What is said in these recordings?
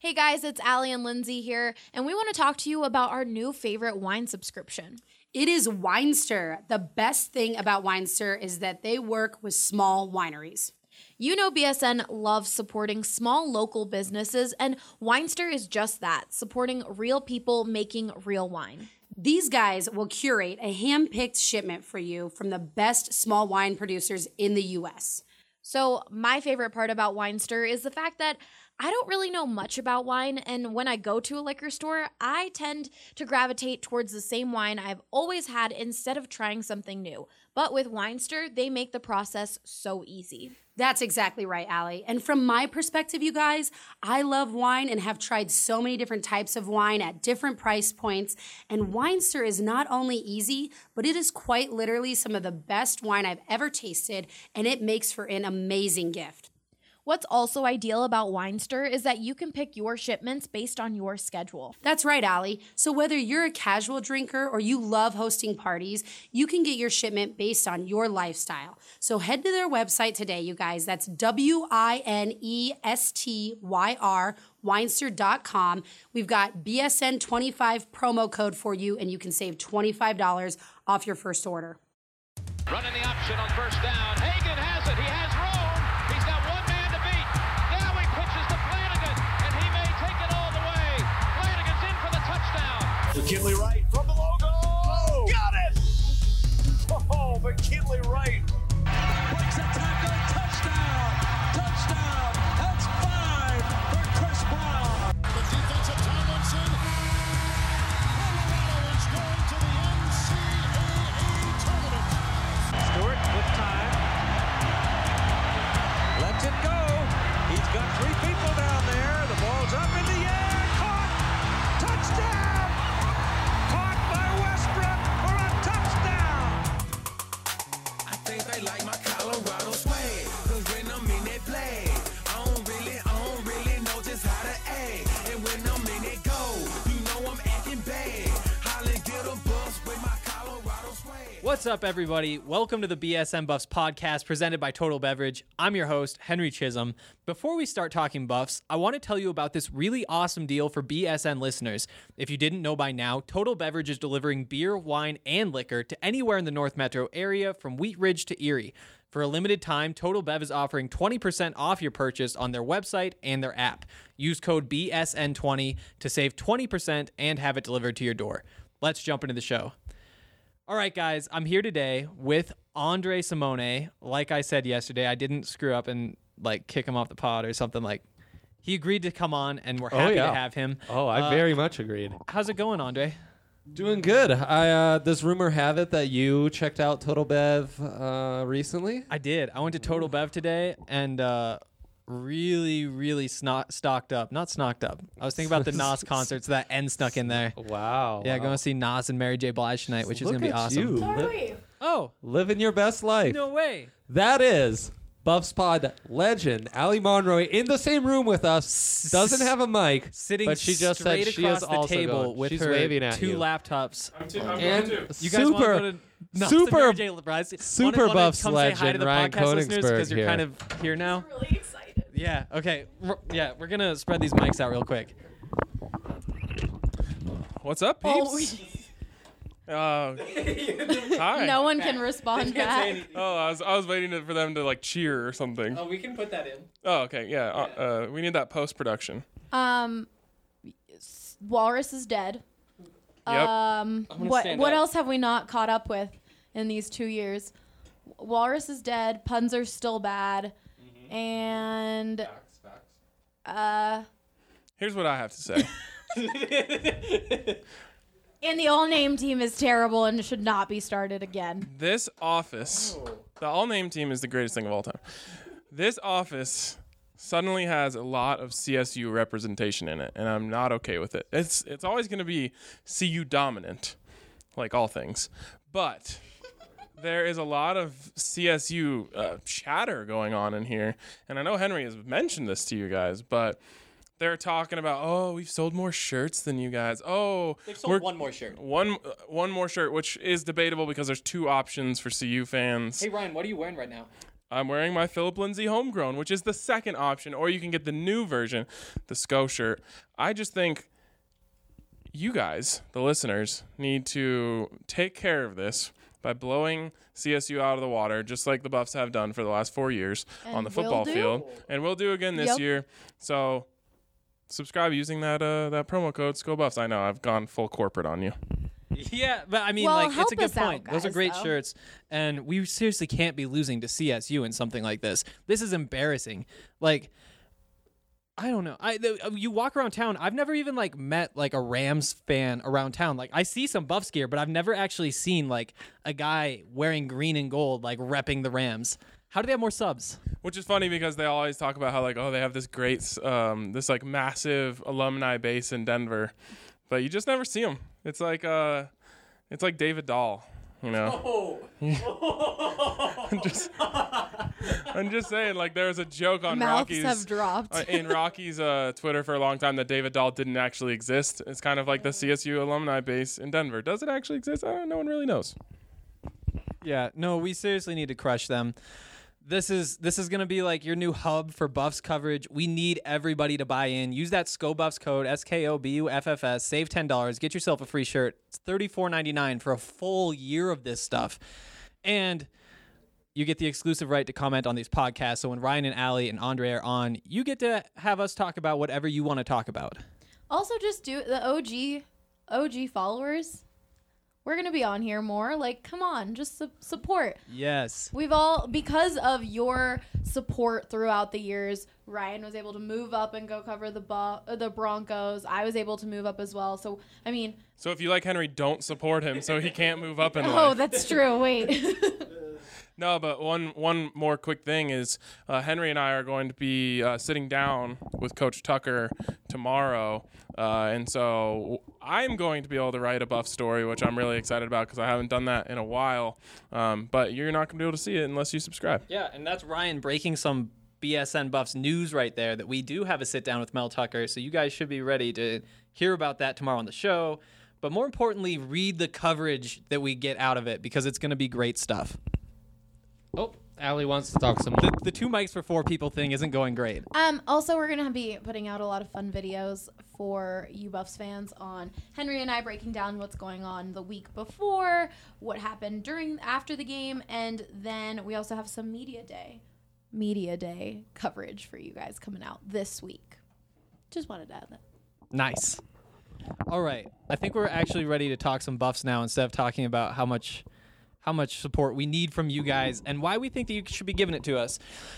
Hey guys, it's Allie and Lindsay here, and we want to talk to you about our new favorite wine subscription. It is Winestyr. The best thing about Winestyr is that they work with small wineries. You know BSN loves supporting small local businesses, and Winestyr is just that, supporting real people making real wine. These guys will curate a hand-picked shipment for you from the best small wine producers in the U.S. So my favorite part about Winestyr is the fact that I don't really know much about wine, and when I go to a liquor store, I tend to gravitate towards the same wine I've always had instead of trying something new. But with Winestyr, they make the process so easy. That's exactly right, Allie. And from my perspective, you guys, I love wine and have tried so many different types of wine at different price points. And Winestyr is not only easy, but it is quite literally some of the best wine I've ever tasted, and it makes for an amazing gift. What's also ideal about Winestyr is that you can pick your shipments based on your schedule. That's right, Allie. So whether you're a casual drinker or you love hosting parties, you can get your shipment based on your lifestyle. So head to their website today, you guys. That's WINESTYR, Winestyr.com. We've got BSN25 promo code for you, and you can save $25 off your first order. Running the option on first down. Hagan has it. He has room. He's got one man to beat. Now he pitches to Flanagan, and he may take it all the way. Flanagan's in for the touchdown. McKinley Wright from the logo. Oh, got it! Oh, McKinley Wright. Breaks a tackle. Touchdown! Touchdown! That's 5 for Chris Brown. The defense of Tomlinson. Colorado is going to the NCAA tournament. Stewart with time. Lets it go. He's got 3 people down there. The ball's up in the air. Caught. Touchdown. Caught by Westbrook for a touchdown. I think they like my Colorado swag, 'cause when I'm in that play, I don't really know just how to act. And when I'm in that go, you know I'm acting bad. Holly get a bus with my Colorado swag. What's up, everybody? Welcome to the BSN Buffs podcast presented by Total Beverage. I'm your host, Henry Chisholm. Before we start talking Buffs, I want to tell you about this really awesome deal for BSN listeners. If you didn't know by now, Total Beverage is delivering beer, wine, and liquor to anywhere in the North Metro area from Wheat Ridge to Erie. For a limited time, Total Bev is offering 20% off your purchase on their website and their app. Use code BSN20 to save 20% and have it delivered to your door. Let's jump into the show. All right, guys, I'm here today with Andre Simone. Like I said yesterday, I didn't screw up and kick him off the pod or something. He agreed to come on, and we're happy to have him. Oh, I very much agreed. How's it going, Andre? Doing good. Does rumor have it that you checked out Total Bev recently? I did. I went to Total Bev today and really stocked up. Not snocked up. I was thinking about the Nas concerts that N snuck in there. Wow. Yeah, going to see Nas and Mary J. Blige tonight, which is going to be awesome. Living your best life. No way. That is Buffs Pod legend Allie Monroy in the same room with us. Doesn't have a mic, sitting but she just straight said she across is the also table going. with She's her waving at 2 you. laptops. And You guys want to go to Nas and Mary J. Blige? super Wanna Buffs come say hi to legend the Ryan podcast listeners because Koenigsberg you're kind of here now. Really excited. Yeah. Okay. We're gonna spread these mics out real quick. What's up, peeps? Hi. No one can respond back. Oh, I was waiting for them to cheer or something. Oh, we can put that in. Oh, okay, yeah. We need that post production. Walrus is dead. Yep. What else have we not caught up with in these 2 years? Walrus is dead. Puns are still bad. And Here's what I have to say. and the all-name team is terrible and should not be started again. This office, the all-name team is the greatest thing of all time. This office suddenly has a lot of CSU representation in it, and I'm not okay with it. It's always going to be CU dominant, like all things. But there is a lot of CSU chatter going on in here, and I know Henry has mentioned this to you guys, but they're talking about, oh, we've sold more shirts than you guys. Oh, they've sold one more shirt. One more shirt, which is debatable because there's 2 options for CU fans. Hey, Ryan, what are you wearing right now? I'm wearing my Philip Lindsay Homegrown, which is the second option, or you can get the new version, the SCO shirt. I just think you guys, the listeners, need to take care of this by blowing CSU out of the water, just like the Buffs have done for the last 4 years on the football field. And we'll do again this year. So subscribe using that promo code SCOBuffs. I know, I've gone full corporate on you. Yeah, but I mean, Well, like, it's a help good us out, point. Those are guys, great though. shirts, and we seriously can't be losing to CSU in something like this. This is embarrassing. Like, I don't know. You walk around town. I've never even like met like a Rams fan around town. Like, I see some Buffs gear, but I've never actually seen like a guy wearing green and gold, like repping the Rams. How do they have more subs? Which is funny because they always talk about how like, oh, they have this great, this like massive alumni base in Denver, but you just never see them. It's like David Dahl, you know. I'm just saying, like, there was a joke on Mouths Rocky's have dropped. in Rocky's Twitter for a long time that David Dahl didn't actually exist. It's kind of like the CSU alumni base in Denver. Does it actually exist? No one really knows. Yeah, no, we seriously need to crush them. This is gonna be like your new hub for Buffs coverage. We need everybody to buy in. Use that SCOBuffs code SKOBUFFS. Save $10. Get yourself a free shirt. It's $34.99 for a full year of this stuff, and you get the exclusive right to comment on these podcasts. So when Ryan and Allie and Andre are on, you get to have us talk about whatever you want to talk about. Also, just do the OG followers. We're going to be on here more. Like, come on, just support. Yes. We've all, because of your support throughout the years, Ryan was able to move up and go cover the Broncos. I was able to move up as well. So, I mean. So if you like Henry, don't support him so he can't move up in life. Oh, that's true. Wait. No, but one more quick thing is Henry and I are going to be sitting down with Coach Tucker tomorrow, and so I'm going to be able to write a Buff story, which I'm really excited about because I haven't done that in a while. But you're not going to be able to see it unless you subscribe. Yeah, and that's Ryan breaking some BSN Buffs news right there that we do have a sit down with Mel Tucker, so you guys should be ready to hear about that tomorrow on the show. But more importantly, read the coverage that we get out of it because it's going to be great stuff. Oh, Allie wants to talk some more. The 2 mics for 4 people thing isn't going great. Also, we're going to be putting out a lot of fun videos for you Buffs fans on Henry and I breaking down what's going on the week before, what happened after the game, and then we also have some media day coverage for you guys coming out this week. Just wanted to add that. Nice. All right. I think we're actually ready to talk some Buffs now instead of talking about how much support we need from you guys and why we think that you should be giving it to us.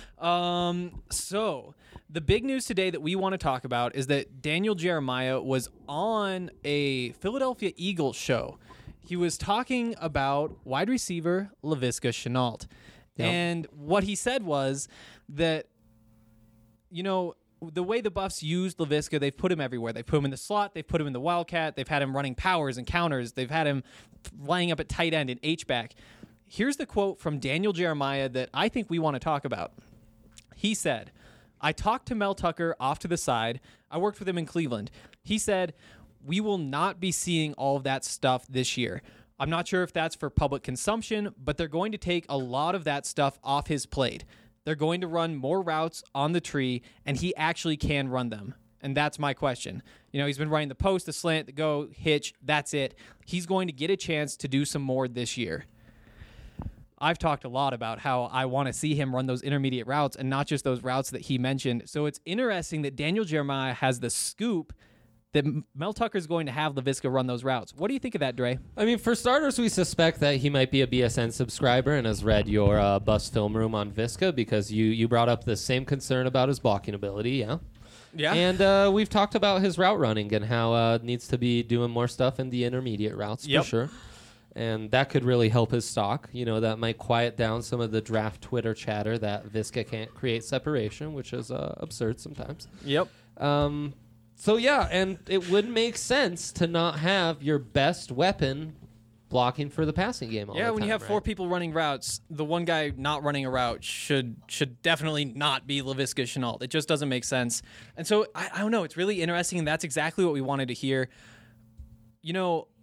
So the big news today that we want to talk about is that Daniel Jeremiah was on a Philadelphia Eagles show. He was talking about wide receiver Laviska Shenault. Yep. And what he said was that, you know, the way the Buffs used Laviska, they've put him everywhere. They've put him in the slot. They've put him in the wildcat. They've had him running powers and counters. They've had him lining up at tight end and H-back. Here's the quote from Daniel Jeremiah that I think we want to talk about. He said, I talked to Mel Tucker off to the side. I worked with him in Cleveland. He said, we will not be seeing all of that stuff this year. I'm not sure if that's for public consumption, but they're going to take a lot of that stuff off his plate. They're going to run more routes on the tree, and he actually can run them. And that's my question. You know, he's been running the post, the slant, the go, hitch. That's it. He's going to get a chance to do some more this year. I've talked a lot about how I want to see him run those intermediate routes and not just those routes that he mentioned. So it's interesting that Daniel Jeremiah has the scoop that Mel Tucker's going to have Laviska run those routes. What do you think of that, Dre? I mean, for starters, we suspect that he might be a BSN subscriber and has read your Buffs film room on Viska because you brought up the same concern about his blocking ability, yeah? Yeah. And we've talked about his route running and how needs to be doing more stuff in the intermediate routes for sure. And that could really help his stock. You know, that might quiet down some of the draft Twitter chatter that Viska can't create separation, which is absurd sometimes. Yep. So, yeah, and it would make sense to not have your best weapon blocking for the passing game all the time. Yeah, when you have 4 people running routes, the one guy not running a route should definitely not be Laviska Shenault. It just doesn't make sense. And so, I don't know, it's really interesting, and that's exactly what we wanted to hear. You know,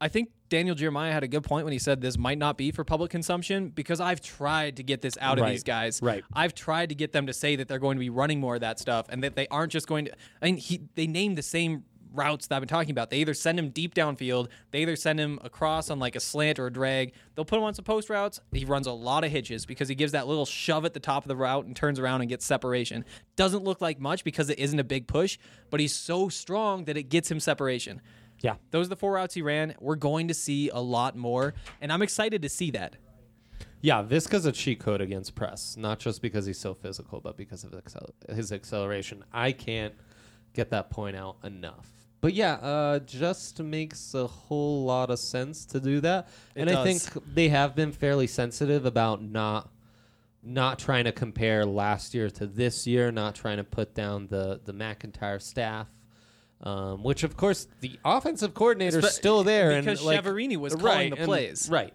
I think Daniel Jeremiah had a good point when he said this might not be for public consumption, because I've tried to get this out of these guys. Right. I've tried to get them to say that they're going to be running more of that stuff and that they aren't just going to. I mean, they named the same routes that I've been talking about. They either send him deep downfield, they either send him across on like a slant or a drag. They'll put him on some post routes. He runs a lot of hitches because he gives that little shove at the top of the route and turns around and gets separation. Doesn't look like much because it isn't a big push, but he's so strong that it gets him separation. Yeah. Those are the 4 routes he ran. We're going to see a lot more, and I'm excited to see that. Yeah, Visca's a cheat code against press, not just because he's so physical, but because of his acceleration. I can't get that point out enough. But yeah, just makes a whole lot of sense to do that. And I think they have been fairly sensitive about not trying to compare last year to this year, not trying to put down the McIntyre staff. Which, of course, the offensive coordinator's still there. Because Chiaverini was calling the plays. Right.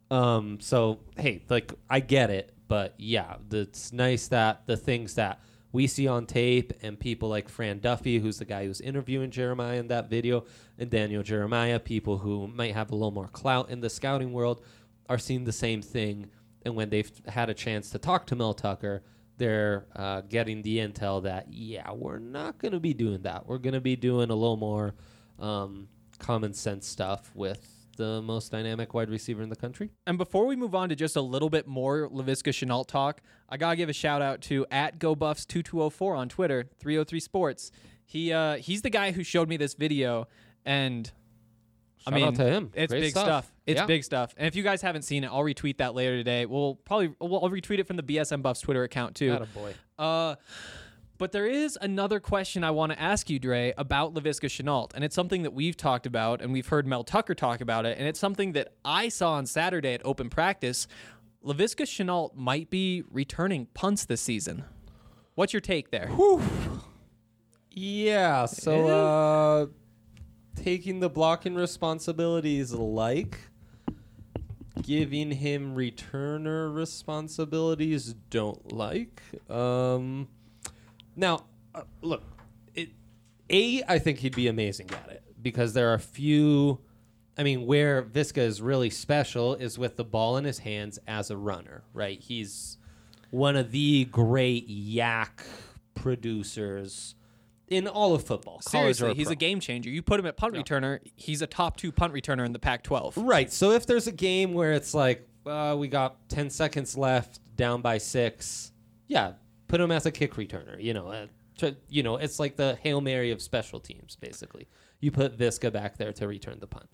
So, hey, like, I get it. But, yeah, it's nice that the things that we see on tape and people like Fran Duffy, who's the guy who's interviewing Jeremiah in that video, and Daniel Jeremiah, people who might have a little more clout in the scouting world, are seeing the same thing. And when they've had a chance to talk to Mel Tucker, they're getting the intel that, yeah, we're not going to be doing that. We're going to be doing a little more common sense stuff with the most dynamic wide receiver in the country. And before we move on to just a little bit more Laviska Shenault talk, I got to give a shout out to @GoBuffs2204 on Twitter, 303 Sports. He's the guy who showed me this video, and Shout out to him. It's Great big stuff. It's Yeah. big stuff. And if you guys haven't seen it, I'll retweet that later today. I'll retweet it from the BSM Buffs Twitter account too. Attaboy. But there is another question I want to ask you, Dre, about Laviska Shenault. And it's something that we've talked about, and we've heard Mel Tucker talk about it. And it's something that I saw on Saturday at open practice. Laviska Shenault might be returning punts this season. What's your take there? Yeah, so taking the blocking responsibilities like giving him returner responsibilities don't like. Now, look, I think he'd be amazing at it because there are a few. I mean, where Visca is really special is with the ball in his hands as a runner, right? He's one of the great yak producers in all of football. Seriously, he's a game changer. You put him at punt returner, he's a top 2 punt returner in the Pac-12. Right. So if there's a game where it's like, we got 10 seconds left, down by 6, yeah, put him as a kick returner. It's like the Hail Mary of special teams, basically. You put Visca back there to return the punt.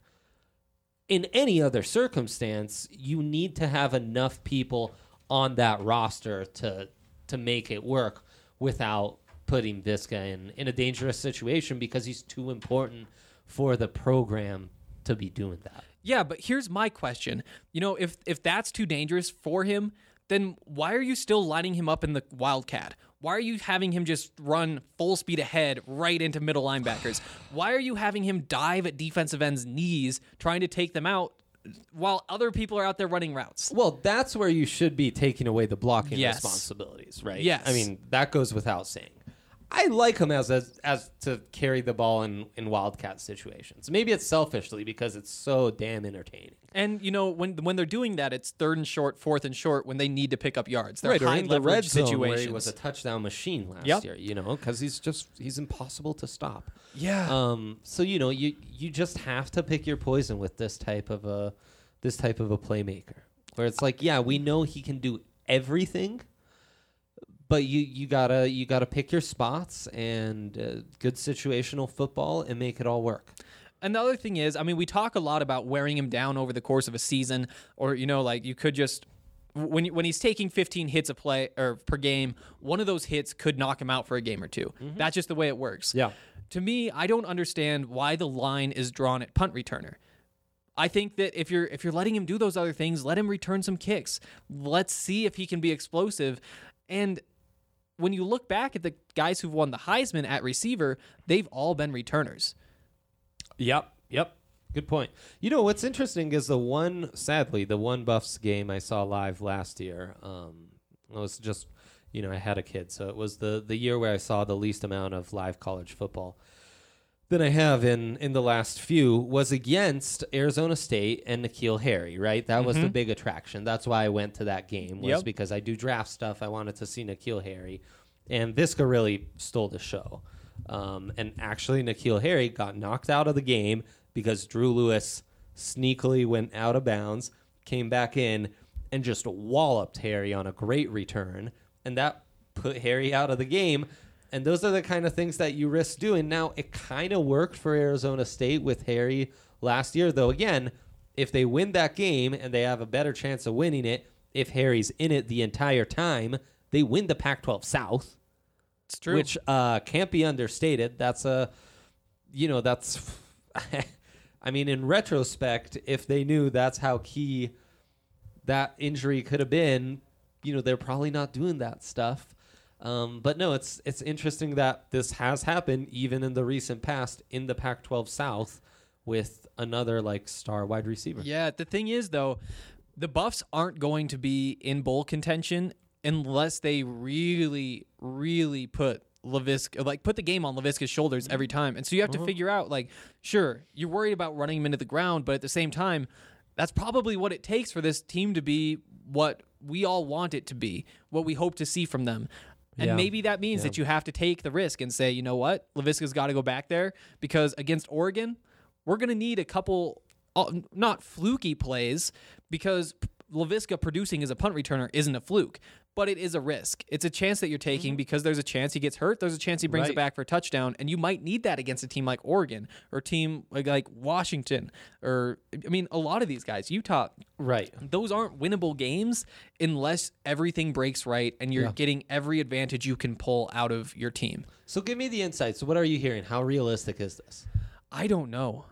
In any other circumstance, you need to have enough people on that roster to make it work without putting Visca in a dangerous situation because he's too important for the program to be doing that. Yeah, but here's my question. If that's too dangerous for him, then why are you still lining him up in the Wildcat? Why are you having him just run full speed ahead right into middle linebackers? Why are you having him dive at defensive ends' knees trying to take them out while other people are out there running routes? Well, that's where you should be taking away the blocking Yes. responsibilities, right? Yes. I mean, that goes without saying. I like him as to carry the ball in Wildcat situations. Maybe it's selfishly because it's so damn entertaining. And, when they're doing that, it's 3rd and short, 4th and short when they need to pick up yards. They're Right, or high in the red leverage zone situations. where he was a touchdown machine last Yep. year, because he's impossible to stop. Yeah. So you just have to pick your poison with this type of a playmaker, where it's like, yeah, we know he can do everything, but you gotta pick your spots and good situational football and make it all work. And the other thing is, we talk a lot about wearing him down over the course of a season, or you could just when he's taking 15 hits a play or per game, one of those hits could knock him out for a game or two. Mm-hmm. That's just the way it works. Yeah. To me, I don't understand why the line is drawn at punt returner. I think that if you're letting him do those other things, let him return some kicks. Let's see if he can be explosive. And when you look back at the guys who've won the Heisman at receiver, they've all been returners. Yep. Good point. What's interesting is the one Buffs game I saw live last year. It was just, I had a kid, so it was the year where I saw the least amount of live college football. than I have in the last few was against Arizona State and N'Keal Harry, right? That was the big attraction. That's why I went to that game, was because I do draft stuff. I wanted to see N'Keal Harry. And Visca really stole the show. And actually, N'Keal Harry got knocked out of the game because Drew Lewis sneakily went out of bounds, came back in, and just walloped Harry on a great return. And that put Harry out of the game. And those are the kind of things that you risk doing. Now, it kind of worked for Arizona State with Harry last year, though, again, if they win that game and they have a better chance of winning it, if Harry's in it the entire time, they win the Pac-12 South. It's true. Which can't be understated. That's that's, I mean, in retrospect, if they knew that's how key that injury could have been, they're probably not doing that stuff. But no, it's interesting that this has happened even in the recent past in the Pac-12 South with another star wide receiver. Yeah, the thing is though, the Buffs aren't going to be in bowl contention unless they really, really put Laviska, put the game on Laviska's shoulders every time. And so you have to figure out, sure, you're worried about running him into the ground, but at the same time, that's probably what it takes for this team to be what we all want it to be, what we hope to see from them. And maybe that means that you have to take the risk and say, you know what, Laviska's got to go back there because against Oregon, we're going to need a couple, not fluky plays, because Laviska producing as a punt returner isn't a fluke, but it is a risk. It's a chance that you're taking because there's a chance he gets hurt. There's a chance he brings it back for a touchdown, and you might need that against a team like Oregon or a team like Washington or, a lot of these guys, Utah. Right. Those aren't winnable games unless everything breaks right and you're getting every advantage you can pull out of your team. So give me the insights. So what are you hearing? How realistic is this? I don't know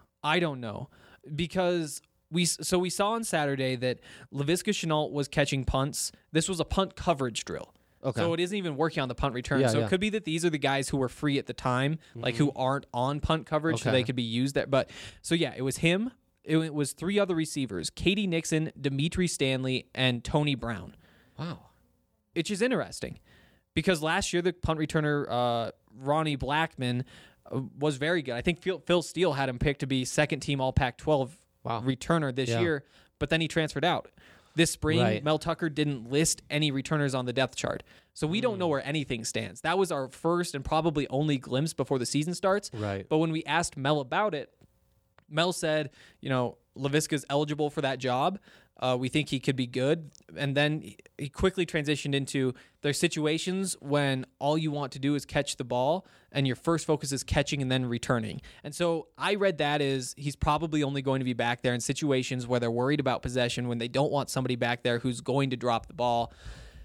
because we saw on Saturday that Laviska Shenault was catching punts. This was a punt coverage drill. Okay. So it isn't even working on the punt return. It could be that these are the guys who were free at the time, who aren't on punt coverage, so they could be used there. But so it was him. It was three other receivers: Katie Nixon, Dimitri Stanley, and Tony Brown. Wow. Which is interesting because last year the punt returner Ronnie Blackman was very good. I think Phil Steele had him picked to be second team All Pac-12 returner this year, but then he transferred out. This spring, Mel Tucker didn't list any returners on the depth chart. So we don't know where anything stands. That was our first and probably only glimpse before the season starts. Right. But when we asked Mel about it, Mel said, Laviska's eligible for that job. We think he could be good. And then he quickly transitioned into there's situations when all you want to do is catch the ball and your first focus is catching and then returning. And so I read that as he's probably only going to be back there in situations where they're worried about possession, when they don't want somebody back there who's going to drop the ball.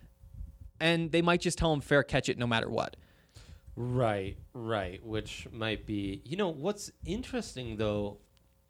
And they might just tell him fair catch it no matter what. Right. Which might be, what's interesting though,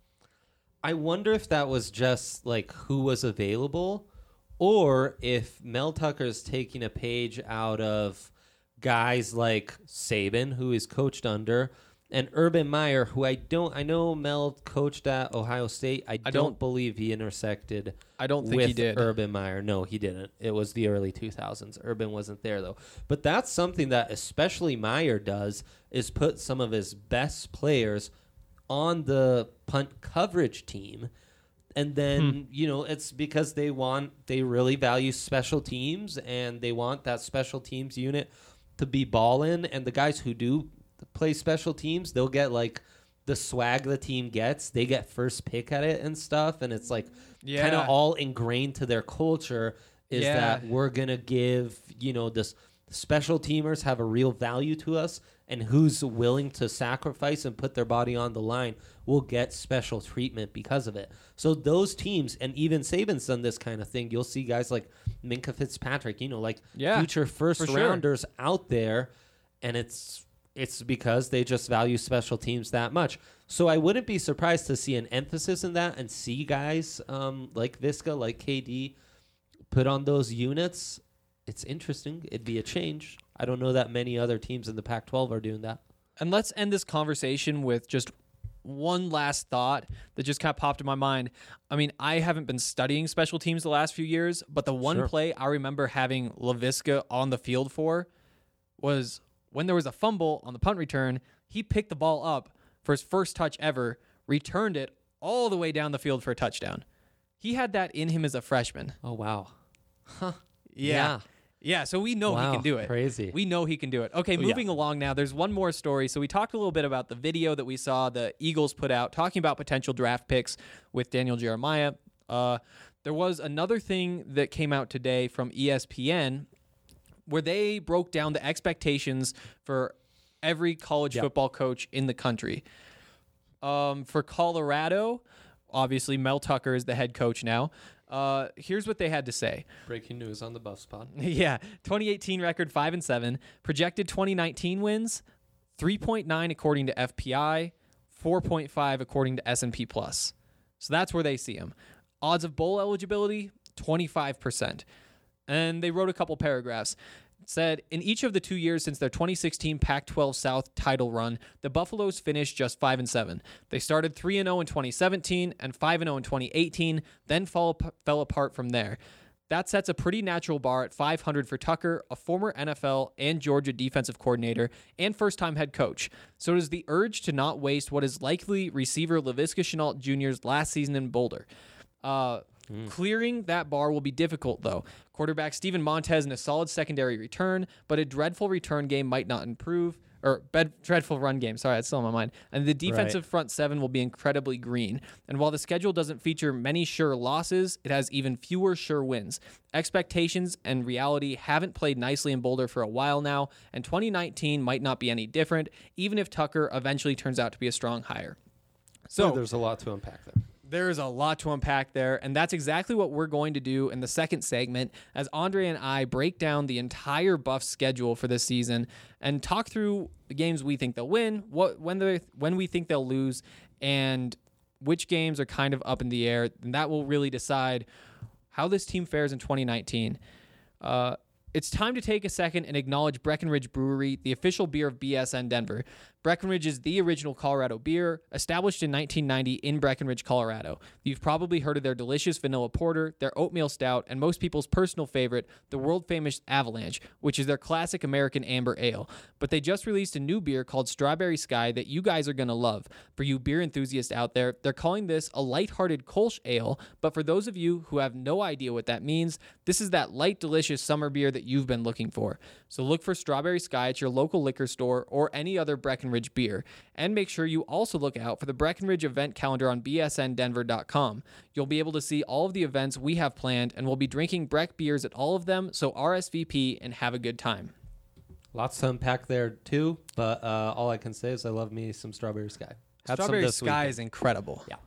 I wonder if that was just who was available, or if Mel Tucker's taking a page out of guys like Saban, who he's coached under, and Urban Meyer, who I know Mel coached at Ohio State. I don't believe he intersected. I don't think he did. Urban Meyer. No, he didn't. It was the early 2000s. Urban wasn't there though. But that's something that especially Meyer does, is put some of his best players on the punt coverage team. And then, it's because they really value special teams, and they want that special teams unit to be ballin'. And the guys who do play special teams, they'll get the swag the team gets. They get first pick at it and stuff. And it's kind of all ingrained to their culture is that we're going to give, this special teamers have a real value to us, and who's willing to sacrifice and put their body on the line will get special treatment because of it. So those teams, and even Saban's done this kind of thing. You'll see guys like Minkah Fitzpatrick, future first rounders out there, and it's because they just value special teams that much. So I wouldn't be surprised to see an emphasis in that and see guys like Visca, like KD, put on those units. It's interesting. It'd be a change. I don't know that many other teams in the Pac-12 are doing that. And let's end this conversation with just one last thought that just kind of popped in my mind. I haven't been studying special teams the last few years, but the one play I remember having Laviska on the field for was when there was a fumble on the punt return. He picked the ball up for his first touch ever, returned it all the way down the field for a touchdown. He had that in him as a freshman. Oh, wow. Yeah. Yeah, so we know he can do it. Crazy. We know he can do it. Okay, moving along now. There's one more story. So we talked a little bit about the video that we saw the Eagles put out talking about potential draft picks with Daniel Jeremiah. There was another thing that came out today from ESPN where they broke down the expectations for every college football coach in the country. For Colorado, obviously Mel Tucker is the head coach now. Here's what they had to say. Breaking news on the Buff Spot. Yeah, 2018 record 5-7, projected 2019 wins 3.9 according to FPI, 4.5 according to S&P Plus. So that's where they see him. Odds of bowl eligibility 25%. And they wrote a couple paragraphs. It said, in each of the 2 years since their 2016 Pac-12 South title run, the Buffaloes finished just 5-7. They started 3-0 in 2017 and 5-0 in 2018, then fell apart from there. That sets a pretty natural bar at 500 for Tucker, a former NFL and Georgia defensive coordinator and first-time head coach. So does the urge to not waste what is likely receiver Laviska Shenault Jr.'s last season in Boulder. Clearing that bar will be difficult, though. Quarterback Steven Montez in a solid secondary return, but a dreadful return game might not improve. Dreadful run game. Sorry, that's still on my mind. And the defensive front seven will be incredibly green. And while the schedule doesn't feature many sure losses, it has even fewer sure wins. Expectations and reality haven't played nicely in Boulder for a while now, and 2019 might not be any different, even if Tucker eventually turns out to be a strong hire. So there's a lot to unpack there. There's a lot to unpack there, and that's exactly what we're going to do in the second segment as Andre and I break down the entire Buff schedule for this season and talk through the games we think they'll win, when we think they'll lose, and which games are kind of up in the air, and that will really decide how this team fares in 2019. It's time to take a second and acknowledge Breckenridge Brewery, the official beer of BSN Denver. Breckenridge is the original Colorado beer, established in 1990 in Breckenridge, Colorado. You've probably heard of their delicious vanilla porter, their oatmeal stout, and most people's personal favorite, the world-famous Avalanche, which is their classic American amber ale. But they just released a new beer called Strawberry Sky that you guys are going to love. For you beer enthusiasts out there, they're calling this a lighthearted Kolsch ale, but for those of you who have no idea what that means, this is that light, delicious summer beer that you've been looking for. So look for Strawberry Sky at your local liquor store or any other Breckenridge beer. And make sure you also look out for the Breckenridge event calendar on bsndenver.com. You'll be able to see all of the events we have planned, and we'll be drinking Breck beers at all of them, so RSVP and have a good time. Lots to unpack there, too, but all I can say is I love me some Strawberry Sky. Strawberry Sky is incredible. Yeah.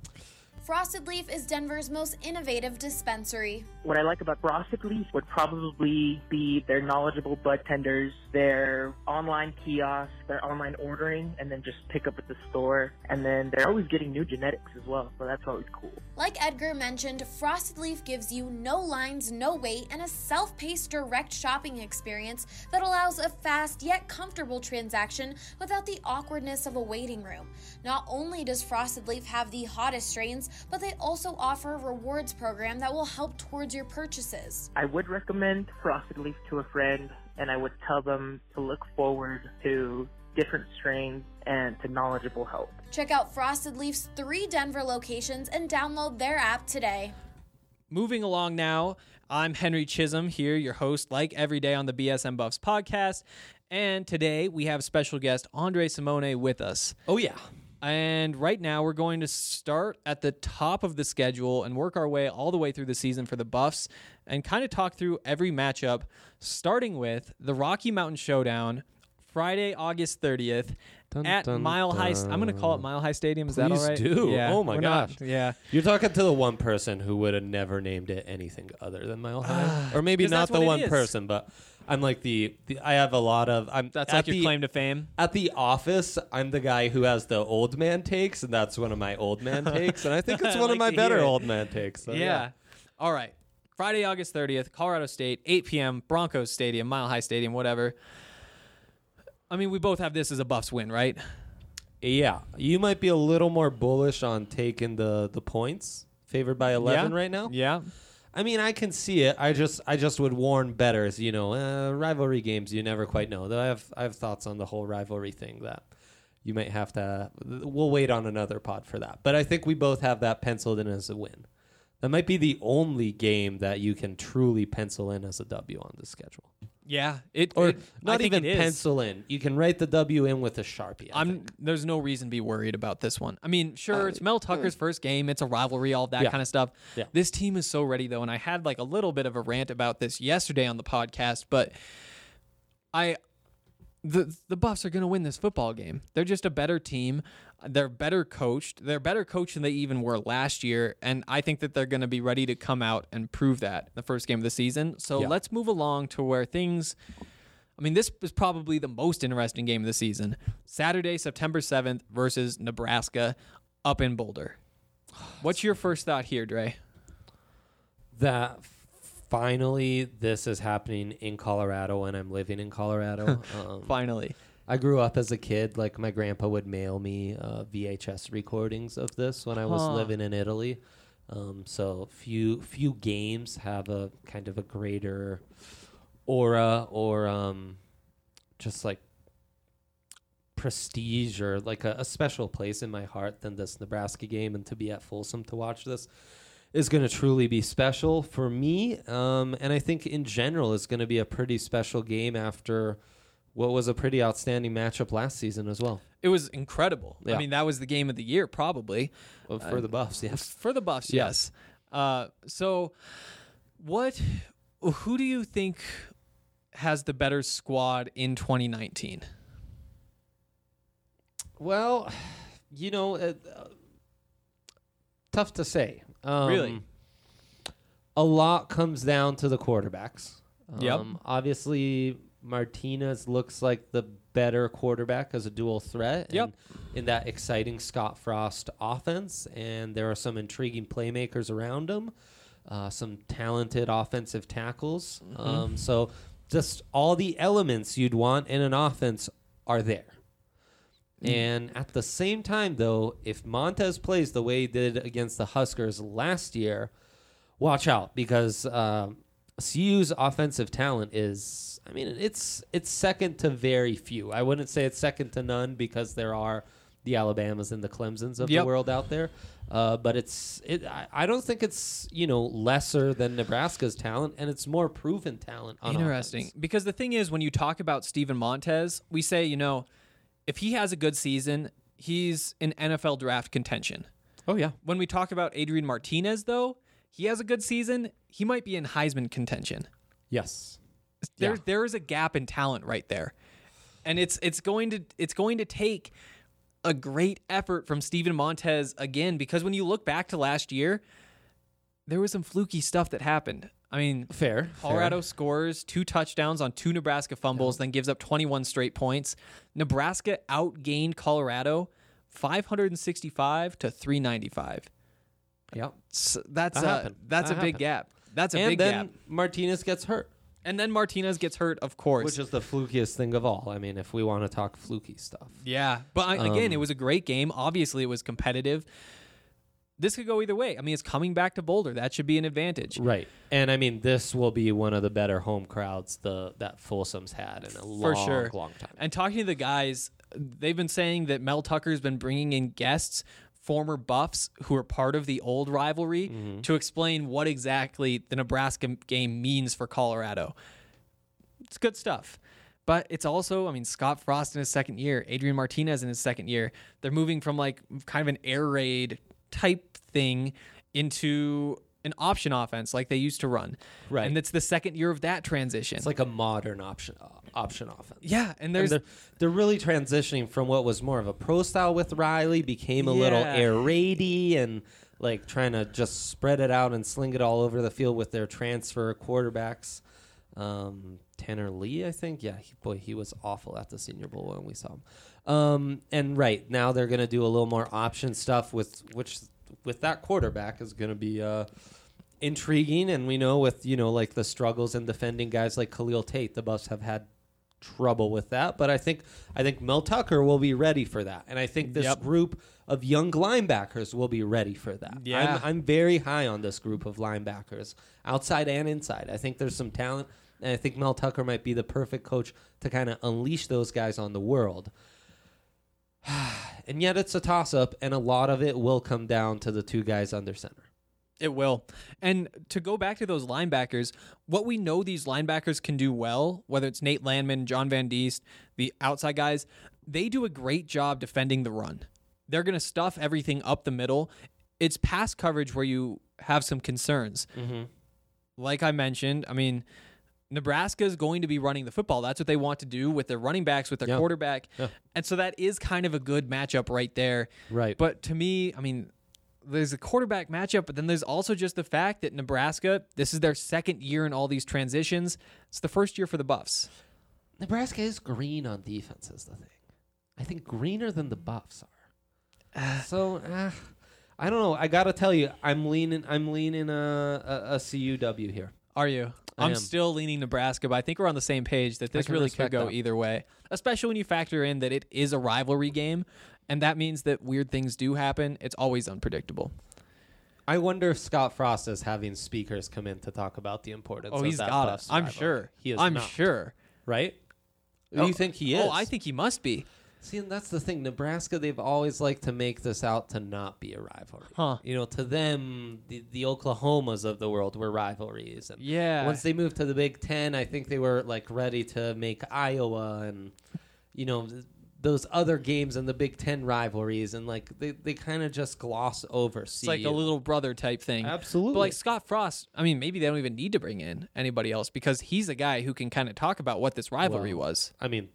Frosted Leaf is Denver's most innovative dispensary. What I like about Frosted Leaf would probably be their knowledgeable bud tenders, their online kiosks, their online ordering, and then just pick up at the store. And then they're always getting new genetics as well, so that's always cool. Like Edgar mentioned, Frosted Leaf gives you no lines, no wait, and a self-paced direct shopping experience that allows a fast yet comfortable transaction without the awkwardness of a waiting room. Not only does Frosted Leaf have the hottest strains, but they also offer a rewards program that will help towards your purchases. I would recommend Frosted Leaf to a friend, and I would tell them to look forward to different strains and to knowledgeable help. Check out Frosted Leaf's 3 Denver locations and download their app today. Moving along now, I'm Henry Chisholm here, your host, like every day on the BSN Buffs podcast. And today we have special guest Andre Simone with us. Oh, yeah. And right now we're going to start at the top of the schedule and work our way all the way through the season for the Buffs and kind of talk through every matchup, starting with the Rocky Mountain Showdown, Friday, August 30th at Mile High. I'm going to call it Mile High Stadium. Is that all right? Please do. Yeah, oh, my gosh. Yeah. You're talking to the one person who would have never named it anything other than Mile High. Or maybe not the one person, but I'm like I have a lot of... That's like your claim to fame? At the office, I'm the guy who has the old man takes, and that's one of my old man takes. And I think it's one of my better old man takes. So, yeah. All right. Friday, August 30th, Colorado State, 8 p.m., Broncos Stadium, Mile High Stadium, whatever. I mean, we both have this as a Buffs win, right? Yeah. You might be a little more bullish on taking the points, favored by 11 right now. Yeah. I mean, I can see it. I just would warn bettors, rivalry games, you never quite know. Though I have thoughts on the whole rivalry thing that you might have to. We'll wait on another pod for that. But I think we both have that penciled in as a win. That might be the only game that you can truly pencil in as a W on the schedule. Yeah, Not even pencil in. You can write the W in with a Sharpie. There's no reason to be worried about this one. I mean, sure, it's Mel Tucker's first game. It's a rivalry, all that kind of stuff. Yeah. This team is so ready, though, and I had like a little bit of a rant about this yesterday on the podcast, but the Buffs are going to win this football game. They're just a better team. They're better coached. They're better coached than they even were last year, and I think that they're going to be ready to come out and prove that in the first game of the season. So let's move along to where things... I mean, this is probably the most interesting game of the season. Saturday, September 7th versus Nebraska up in Boulder. What's your first thought here, Dre? That finally this is happening in Colorado and I'm living in Colorado. Finally. I grew up as a kid, like my grandpa would mail me VHS recordings of this when I was living in Italy. So few games have a kind of a greater aura or just like prestige or like a special place in my heart than this Nebraska game, and to be at Folsom to watch this is going to truly be special for me. And I think in general it's going to be a pretty special game after what was a pretty outstanding matchup last season as well. It was incredible. Yeah. I mean, that was the game of the year, probably. Well, for the Buffs, yes. For the Buffs, yes. So who do you think has the better squad in 2019? Well, tough to say. Really? A lot comes down to the quarterbacks. Yep. Obviously, Martinez looks like the better quarterback as a dual threat. Yep. In that exciting Scott Frost offense, and there are some intriguing playmakers around him, some talented offensive tackles. So just all the elements you'd want in an offense are there. And at the same time, though, if Montez plays the way he did against the Huskers last year, watch out, because CU's offensive talent is, I mean, it's second to very few. I wouldn't say it's second to none because there are the Alabamas and the Clemsons of the world out there. But I don't think it's, lesser than Nebraska's talent, and it's more proven talent on Interesting. offense. Because the thing is, when you talk about Steven Montez, we say, if he has a good season, he's in NFL draft contention. Oh, yeah. When we talk about Adrian Martinez, though, he has a good season, he might be in Heisman contention. Yes. There is a gap in talent right there. And it's going to take a great effort from Steven Montez again, because when you look back to last year, there was some fluky stuff that happened. I mean, Colorado scores 2 touchdowns on 2 Nebraska fumbles, then gives up 21 straight points. Nebraska outgained Colorado 565 to 395. Yep. So that's a big gap. That's a big gap. And then Martinez gets hurt. And then Martinez gets hurt, of course. Which is the flukiest thing of all. I mean, if we want to talk fluky stuff. Yeah. But again, it was a great game. Obviously, it was competitive. This could go either way. I mean, it's coming back to Boulder. That should be an advantage. Right. And I mean, this will be one of the better home crowds that Folsom's had in a long time. And talking to the guys, they've been saying that Mel Tucker's been bringing in guests, former Buffs who are part of the old rivalry, to explain what exactly the Nebraska game means for Colorado. It's good stuff. But it's also, I mean, Scott Frost in his second year, Adrian Martinez in his second year. They're moving from like kind of an air raid type thing into an option offense like they used to run. Right. And it's the second year of that transition. It's like a modern option offense. Yeah, and they're really transitioning from what was more of a pro style with Riley, became a little air raidy and like trying to just spread it out and sling it all over the field with their transfer quarterbacks. Tanner Lee, I think. Yeah, he was awful at the Senior Bowl when we saw him. And right now they're going to do a little more option stuff with that quarterback is going to be intriguing. And we know with like the struggles in defending guys like Khalil Tate, the Buffs have had trouble with that. But I think Mel Tucker will be ready for that, and I think this group of young linebackers will be ready for that. Yeah. I'm very high on this group of linebackers, outside and inside. I think there's some talent. And I think Mel Tucker might be the perfect coach to kind of unleash those guys on the world. And yet it's a toss-up, and a lot of it will come down to the two guys under center. It will. And to go back to those linebackers, what we know these linebackers can do well, whether it's Nate Landman, John Van Diest, the outside guys, they do a great job defending the run. They're going to stuff everything up the middle. It's pass coverage where you have some concerns. Mm-hmm. Like I mentioned, I mean, Nebraska is going to be running the football. That's what they want to do with their running backs, with their quarterback. Yeah. And so that is kind of a good matchup right there. Right. But to me, I mean, there's a quarterback matchup, but then there's also just the fact that Nebraska, this is their second year in all these transitions. It's the first year for the Buffs. Nebraska is green on defense is the thing. I think greener than the Buffs are. I don't know. I got to tell you, I'm leaning a CUW here. Are you? I'm still leaning Nebraska, but I think we're on the same page that this really could go either way, especially when you factor in that it is a rivalry game, and that means that weird things do happen. It's always unpredictable. I wonder if Scott Frost is having speakers come in to talk about the importance of he's that got Buffs it. I'm rivalry. sure. He is I'm not, sure. Right? Do you think he is? Oh, I think he must be. See, and that's the thing. Nebraska, they've always liked to make this out to not be a rivalry. Huh. You know, to them, the Oklahomas of the world were rivalries. And Yeah. once they moved to the Big Ten, I think they were like ready to make Iowa and, you know, those other games in the Big Ten rivalries. And like they kind of just gloss over. It's like a little brother type thing. Absolutely. But like Scott Frost, I mean, maybe they don't even need to bring in anybody else because he's a guy who can kind of talk about what this rivalry was. I mean,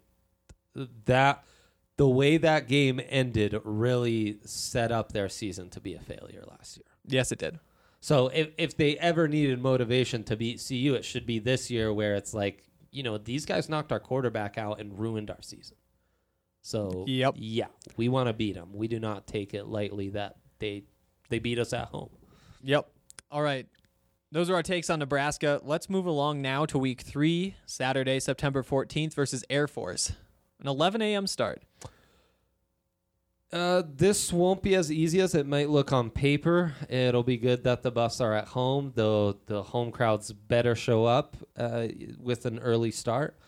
the way that game ended really set up their season to be a failure last year. Yes, it did. So if they ever needed motivation to beat CU, it should be this year where it's like, you know, these guys knocked our quarterback out and ruined our season. So, yeah, we want to beat them. We do not take it lightly that they beat us at home. Yep. All right. Those are our takes on Nebraska. Let's move along now to week 3, Saturday, September 14th versus Air Force. An 11 a.m. start. This won't be as easy as it might look on paper. It'll be good that the Buffs are at home, though the home crowds better show up with an early start.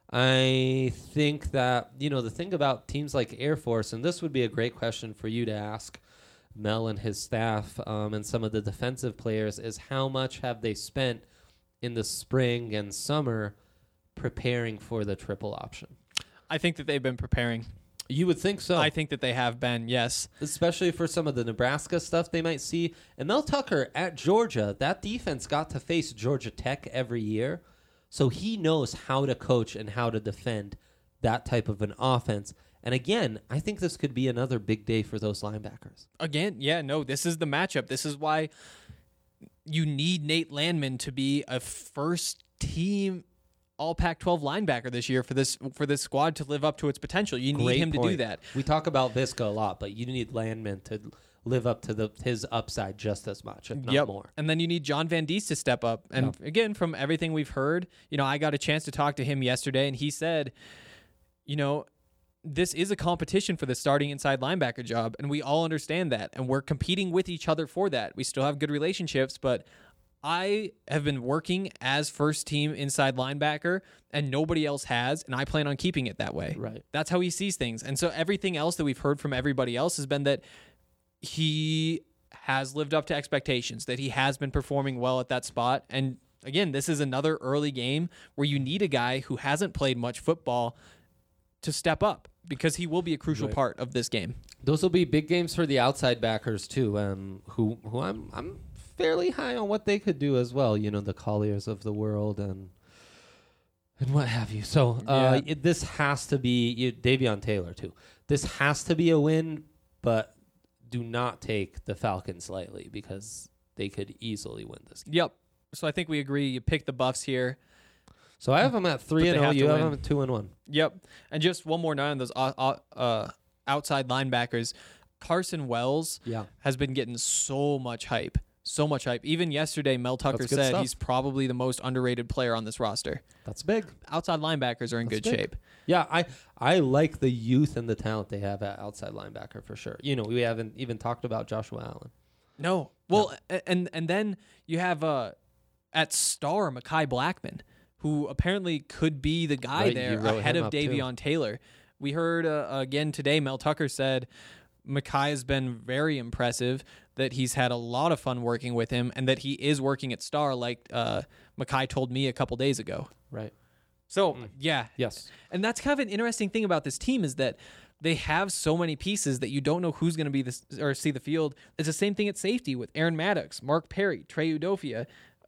I think that, you know, the thing about teams like Air Force, and this would be a great question for you to ask Mel and his staff and some of the defensive players, is how much have they spent in the spring and summer preparing for the triple option? I think that they've been preparing. You would think so. I think that they have been, yes. Especially for some of the Nebraska stuff they might see. And Mel Tucker at Georgia, that defense got to face Georgia Tech every year. So he knows how to coach and how to defend that type of an offense. And again, I think this could be another big day for those linebackers. Again, yeah, no, this is the matchup. This is why you need Nate Landman to be a first-team all Pac-12 linebacker this year for this squad to live up to its potential. You need him to do that. We talk about Visca a lot, but you need Landman to live up to his upside just as much, if not more. And then you need John Van Diest to step up. And again, from everything we've heard, you know, I got a chance to talk to him yesterday, and he said, you know, this is a competition for the starting inside linebacker job, and we all understand that, and we're competing with each other for that. We still have good relationships, but I have been working as first team inside linebacker and nobody else has, and I plan on keeping it that way. Right. That's how he sees things. And so everything else that we've heard from everybody else has been that he has lived up to expectations, that he has been performing well at that spot. And again, this is another early game where you need a guy who hasn't played much football to step up because he will be a crucial part of this game. Those will be big games for the outside backers too, who I'm fairly high on what they could do as well. You know, the Colliers of the world and what have you. So this has to be Davion Taylor too. This has to be a win, but do not take the Falcons lightly because they could easily win this game. Yep. So I think we agree. You pick the Buffs here. So I have them at 3-0. You have them at 2-1. Yep. And just one more note on those outside linebackers. Carson Wells has been getting so much hype. So much hype. Even yesterday, Mel Tucker said he's probably the most underrated player on this roster. That's big. Outside linebackers are in good shape. Yeah, I like the youth and the talent they have at outside linebacker for sure. You know, we haven't even talked about Joshua Allen. No. Well, and then you have at star Mekhi Blackman, who apparently could be the guy there ahead of Davion Taylor. We heard again today, Mel Tucker said Mekhi has been very impressive, that he's had a lot of fun working with him, and that he is working at Star, like Mekhi told me a couple days ago. Right. So, yeah. Yes. And that's kind of an interesting thing about this team is that they have so many pieces that you don't know who's going to be this or see the field. It's the same thing at safety with Aaron Maddox, Mark Perry, Trey Udofia,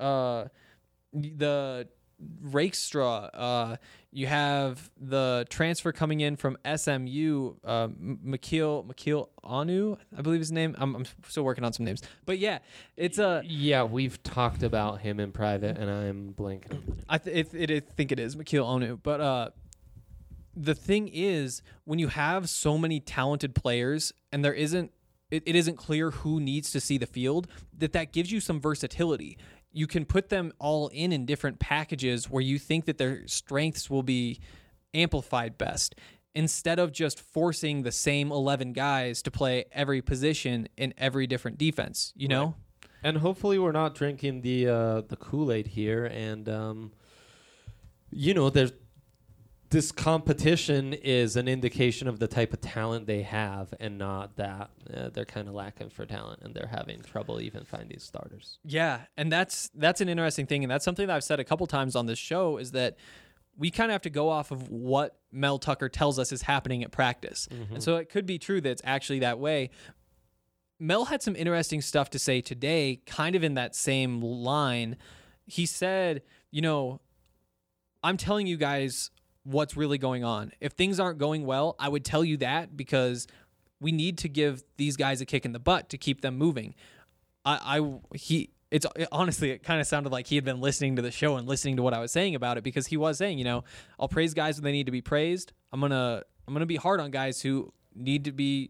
the Rakestraw. You have the transfer coming in from SMU, Makil Anu, I believe his name. I'm still working on some names, but yeah, it's yeah, we've talked about him in private, and I'm blanking. I think it is Makil Anu, but the thing is, when you have so many talented players and there isn't, it isn't clear who needs to see the field, that gives you some versatility. You can put them all in different packages where you think that their strengths will be amplified best, instead of just forcing the same 11 guys to play every position in every different defense, you know? And hopefully we're not drinking the Kool-Aid here. And, there's this competition is an indication of the type of talent they have, and not that they're kind of lacking for talent and they're having trouble even finding starters. Yeah, and that's an interesting thing, and that's something that I've said a couple times on this show, is that we kind of have to go off of what Mel Tucker tells us is happening at practice. And so it could be true that it's actually that way. Mel had some interesting stuff to say today, kind of in that same line. He said, I'm telling you guys what's really going on. If things aren't going well, I would tell you that, because we need to give these guys a kick in the butt to keep them moving. Honestly, it kind of sounded like he had been listening to the show and listening to what I was saying about it, because he was saying, I'll praise guys when they need to be praised. I'm gonna be hard on guys who need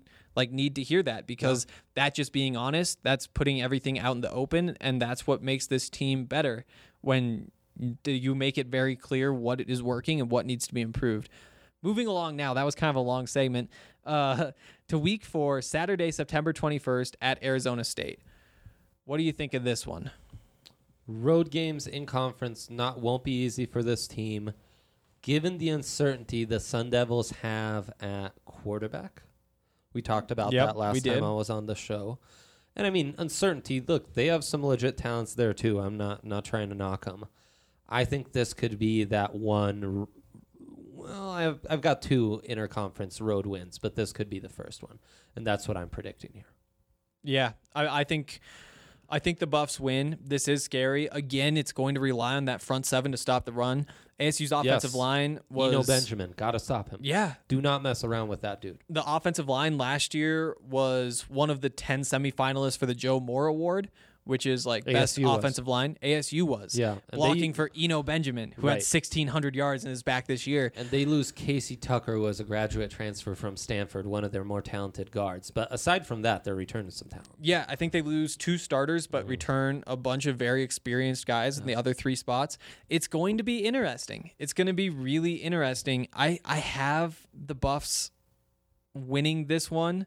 to hear that, because that just being honest, that's putting everything out in the open, and that's what makes this team better, when you make it very clear what is working and what needs to be improved. Moving along now, that was kind of a long segment, to week 4, Saturday, September 21st at Arizona State. What do you think of this one? Road games in conference won't be easy for this team, given the uncertainty the Sun Devils have at quarterback. We talked about that last time I was on the show. And I mean, uncertainty, look, they have some legit talents there too. I'm not trying to knock them. I think this could be that one. Well, I've got 2 interconference road wins, but this could be the first one, and that's what I'm predicting here. Yeah, I think the Buffs win. This is scary. Again, it's going to rely on that front 7 to stop the run. ASU's offensive line was... Eno Benjamin, got to stop him. Yeah. Do not mess around with that dude. The offensive line last year was one of the 10 semifinalists for the Joe Moore Award, which is like best offensive line. ASU was. Yeah. Blocking for Eno Benjamin, who had 1,600 yards in his back this year. And they lose Casey Tucker, who was a graduate transfer from Stanford, one of their more talented guards. But aside from that, they're returning some talent. Yeah, I think they lose 2 starters, but return a bunch of very experienced guys in the other 3 spots. It's going to be interesting. It's going to be really interesting. I have the Buffs winning this one,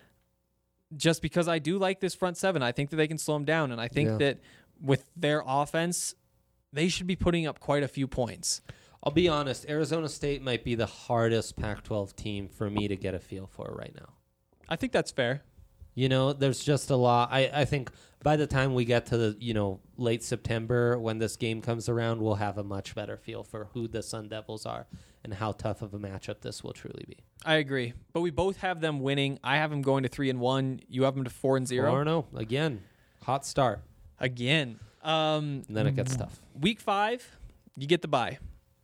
just because I do like this front 7. I think that they can slow them down, and I think that with their offense, they should be putting up quite a few points. I'll be honest, Arizona State might be the hardest Pac-12 team for me to get a feel for right now. I think that's fair. There's just a lot. I think by the time we get to the, late September, when this game comes around, we'll have a much better feel for who the Sun Devils are and how tough of a matchup this will truly be. I agree. But we both have them winning. I have them going to 3-1. You have them to 4-0. 4-0. Again, hot start. Again. And then it gets tough. Week 5, you get the bye.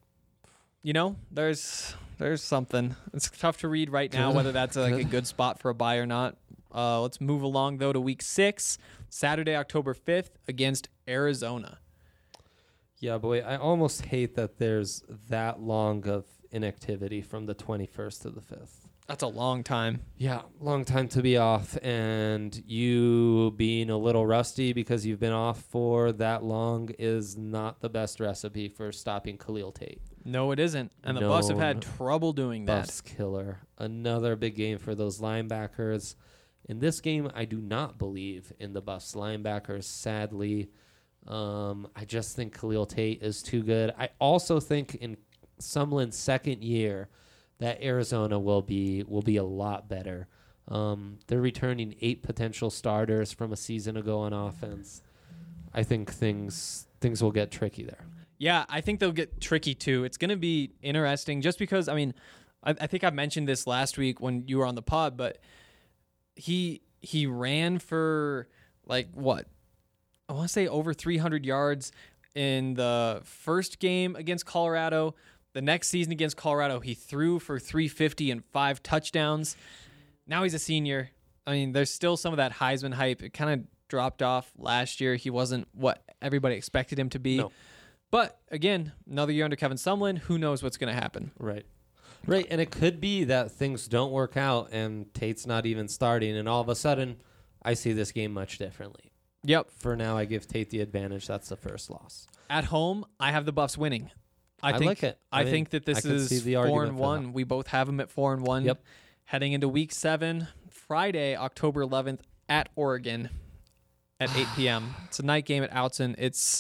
There's something. It's tough to read right now whether that's a good spot for a bye or not. Let's move along, though, to week 6, Saturday, October 5th, against Arizona. Yeah, boy, I almost hate that there's that long of inactivity from the 21st to the 5th. That's a long time. Yeah, long time to be off, and you being a little rusty because you've been off for that long is not the best recipe for stopping Khalil Tate. No, it isn't. And the Buffs have had trouble doing that. Buffs killer. Another big game for those linebackers. In this game, I do not believe in the Buffs linebackers, sadly. I just think Khalil Tate is too good. I also think in Sumlin's second year that Arizona will be a lot better. They're returning 8 potential starters from a season ago on offense. I think things will get tricky there. Yeah, I think they'll get tricky too. It's going to be interesting just because, I mean, I think I mentioned this last week when you were on the pod, but he ran for like what? I want to say over 300 yards in the first game against Colorado. The next season against Colorado, he threw for 350 and 5 touchdowns. Now he's a senior. I mean, there's still some of that Heisman hype. It kind of dropped off last year. He wasn't what everybody expected him to be. No. But again, another year under Kevin Sumlin. Who knows what's going to happen? Right. Right, and it could be that things don't work out and Tate's not even starting, and all of a sudden, I see this game much differently. Yep. For now, I give Tate the advantage. That's the first loss. At home, I have the Buffs winning. I think, like it. I think that this is 4-1. We both have them at 4-1. Yep. Heading into Week 7, Friday, October 11th, at Oregon at 8 p.m. It's a night game at Outson.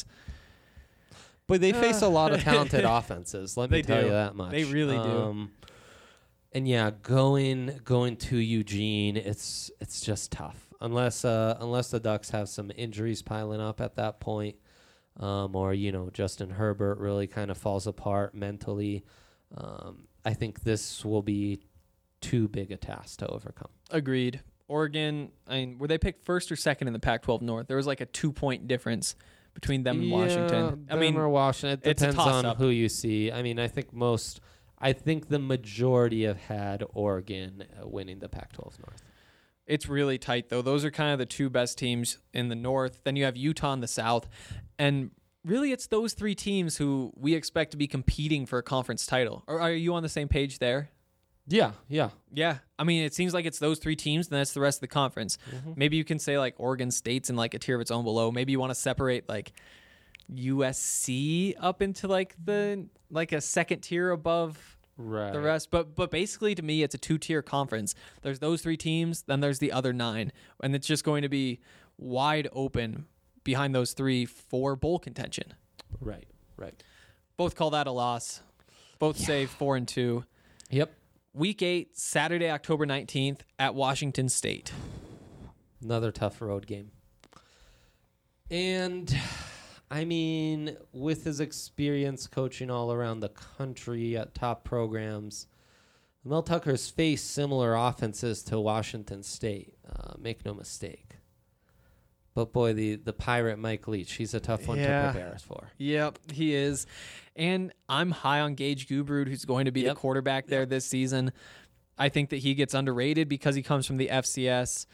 But they face a lot of talented offenses. Let me tell you that much. They really do. And yeah, going to Eugene, it's just tough unless the Ducks have some injuries piling up at that point, or Justin Herbert really kind of falls apart mentally. I think this will be too big a task to overcome. Agreed. Oregon, I mean, were they picked first or second in the Pac-12 North? There was like a 2-point difference between them and Washington. I mean, or Washington. It depends on toss-up. who you see. I mean, I think the majority have had Oregon winning the Pac-12 North. It's really tight, though. Those are kind of the 2 best teams in the North. Then you have Utah in the South. And really, it's those 3 teams who we expect to be competing for a conference title. Or are you on the same page there? Yeah. Yeah. I mean, it seems like it's those 3 teams, and that's the rest of the conference. Mm-hmm. Maybe you can say, like, Oregon State's in, like, a tier of its own below. Maybe you want to separate, like, USC up into, like, a second tier above the rest. But basically, to me, it's a 2-tier conference. There's those 3 teams, then there's the other 9. And it's just going to be wide open behind those 3 for bowl contention. Right. Both call that a loss. Both say 4-2. Yep. Week 8, Saturday, October 19th at Washington State. Another tough road game. And, I mean, with his experience coaching all around the country at top programs, Mel Tucker's faced similar offenses to Washington State. Make no mistake. But, boy, the Pirate Mike Leach, he's a tough one to prepare us for. Yep, he is. And I'm high on Gage Gubrud, who's going to be the quarterback there this season. I think that he gets underrated because he comes from the FCS.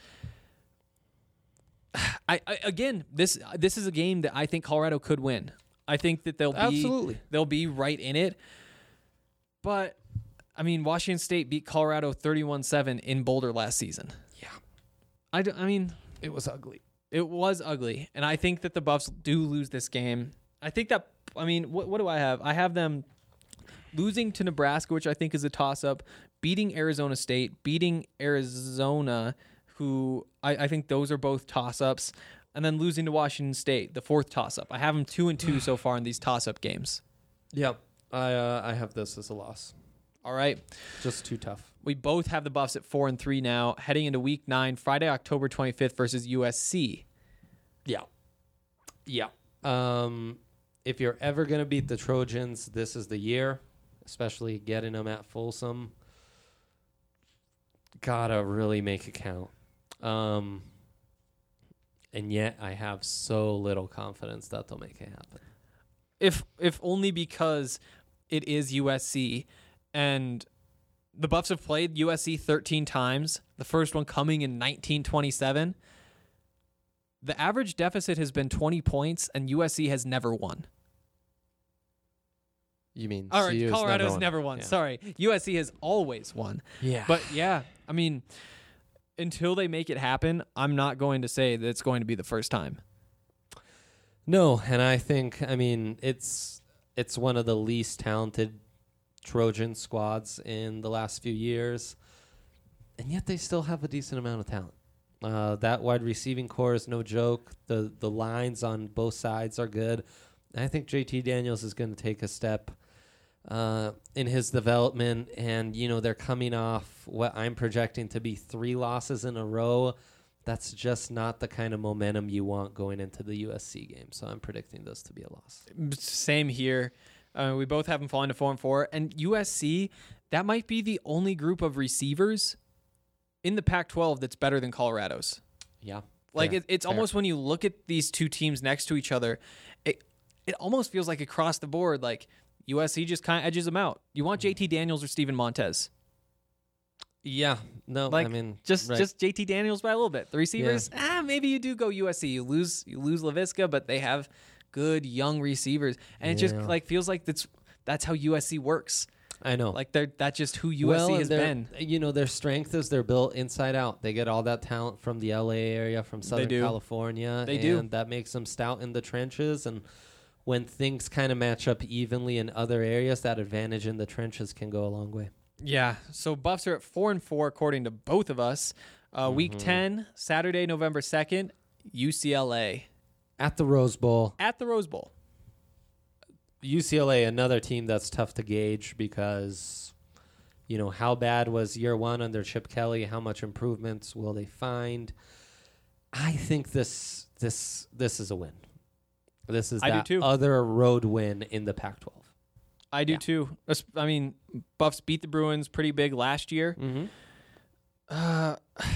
Again, this is a game that I think Colorado could win. I think that they'll be right in it. But, I mean, Washington State beat Colorado 31-7 in Boulder last season. Yeah. I mean, it was ugly. It was ugly, and I think that the Buffs do lose this game. I think that, I mean, what do I have? I have them losing to Nebraska, which I think is a toss-up, beating Arizona State, beating Arizona, who I think those are both toss-ups, and then losing to Washington State, the 4th toss-up. I have them 2-2 so far in these toss-up games. Yep. I have this as a loss. All right. Just too tough. We both have the Buffs at 4-3 now, heading into Week 9, Friday, October 25th versus USC. Yeah. If you're ever going to beat the Trojans, this is the year, especially getting them at Folsom. Gotta really make it count. And yet I have so little confidence that they'll make it happen. If only because it is USC, and the Buffs have played USC 13 times, the first one coming in 1927. The average deficit has been 20 points, and USC has never won. You mean Colorado's never won. Yeah. Sorry. USC has always won. Yeah. But, yeah, I mean, until they make it happen, I'm not going to say that it's going to be the first time. No, and I think, I mean, it's one of the least talented Trojan squads in the last few years, and yet they still have a decent amount of talent. That wide receiving core is no joke. The lines on both sides are good. And I think JT Daniels is going to take a step in his development, and they're coming off what I'm projecting to be 3 losses in a row. That's just not the kind of momentum you want going into the USC game. So I'm predicting this to be a loss. Same here. We both have them falling to 4-4, and USC, that might be the only group of receivers in the Pac-12 that's better than Colorado's. Yeah. Like fair, it's fair. almost when you look at these two teams next to each other, it almost feels like across the board, like USC just kind of edges them out. You want JT Daniels or Steven Montez? Yeah. No, Like I mean, just right. JT Daniels by a little bit. The receivers, maybe you do go USC. You lose LaVisca, but they have good young receivers, and it just like feels like that's how USC works. I know. Like that's just who USC has been. Their strength is they're built inside out. They get all that talent from the LA area, from Southern California. They do. And that makes them stout in the trenches. And when things kind of match up evenly in other areas, that advantage in the trenches can go a long way. Yeah. So Buffs are at 4-4 according to both of us. Week 10, Saturday, November 2nd, UCLA At the Rose Bowl. at the Rose Bowl. UCLA, another team that's tough to gauge because, how bad was year 1 under Chip Kelly? How much improvements will they find? I think this is a win. This is I do that too. other road win in the Pac-12. I do too. I mean, Buffs beat the Bruins pretty big last year. Mm-hmm.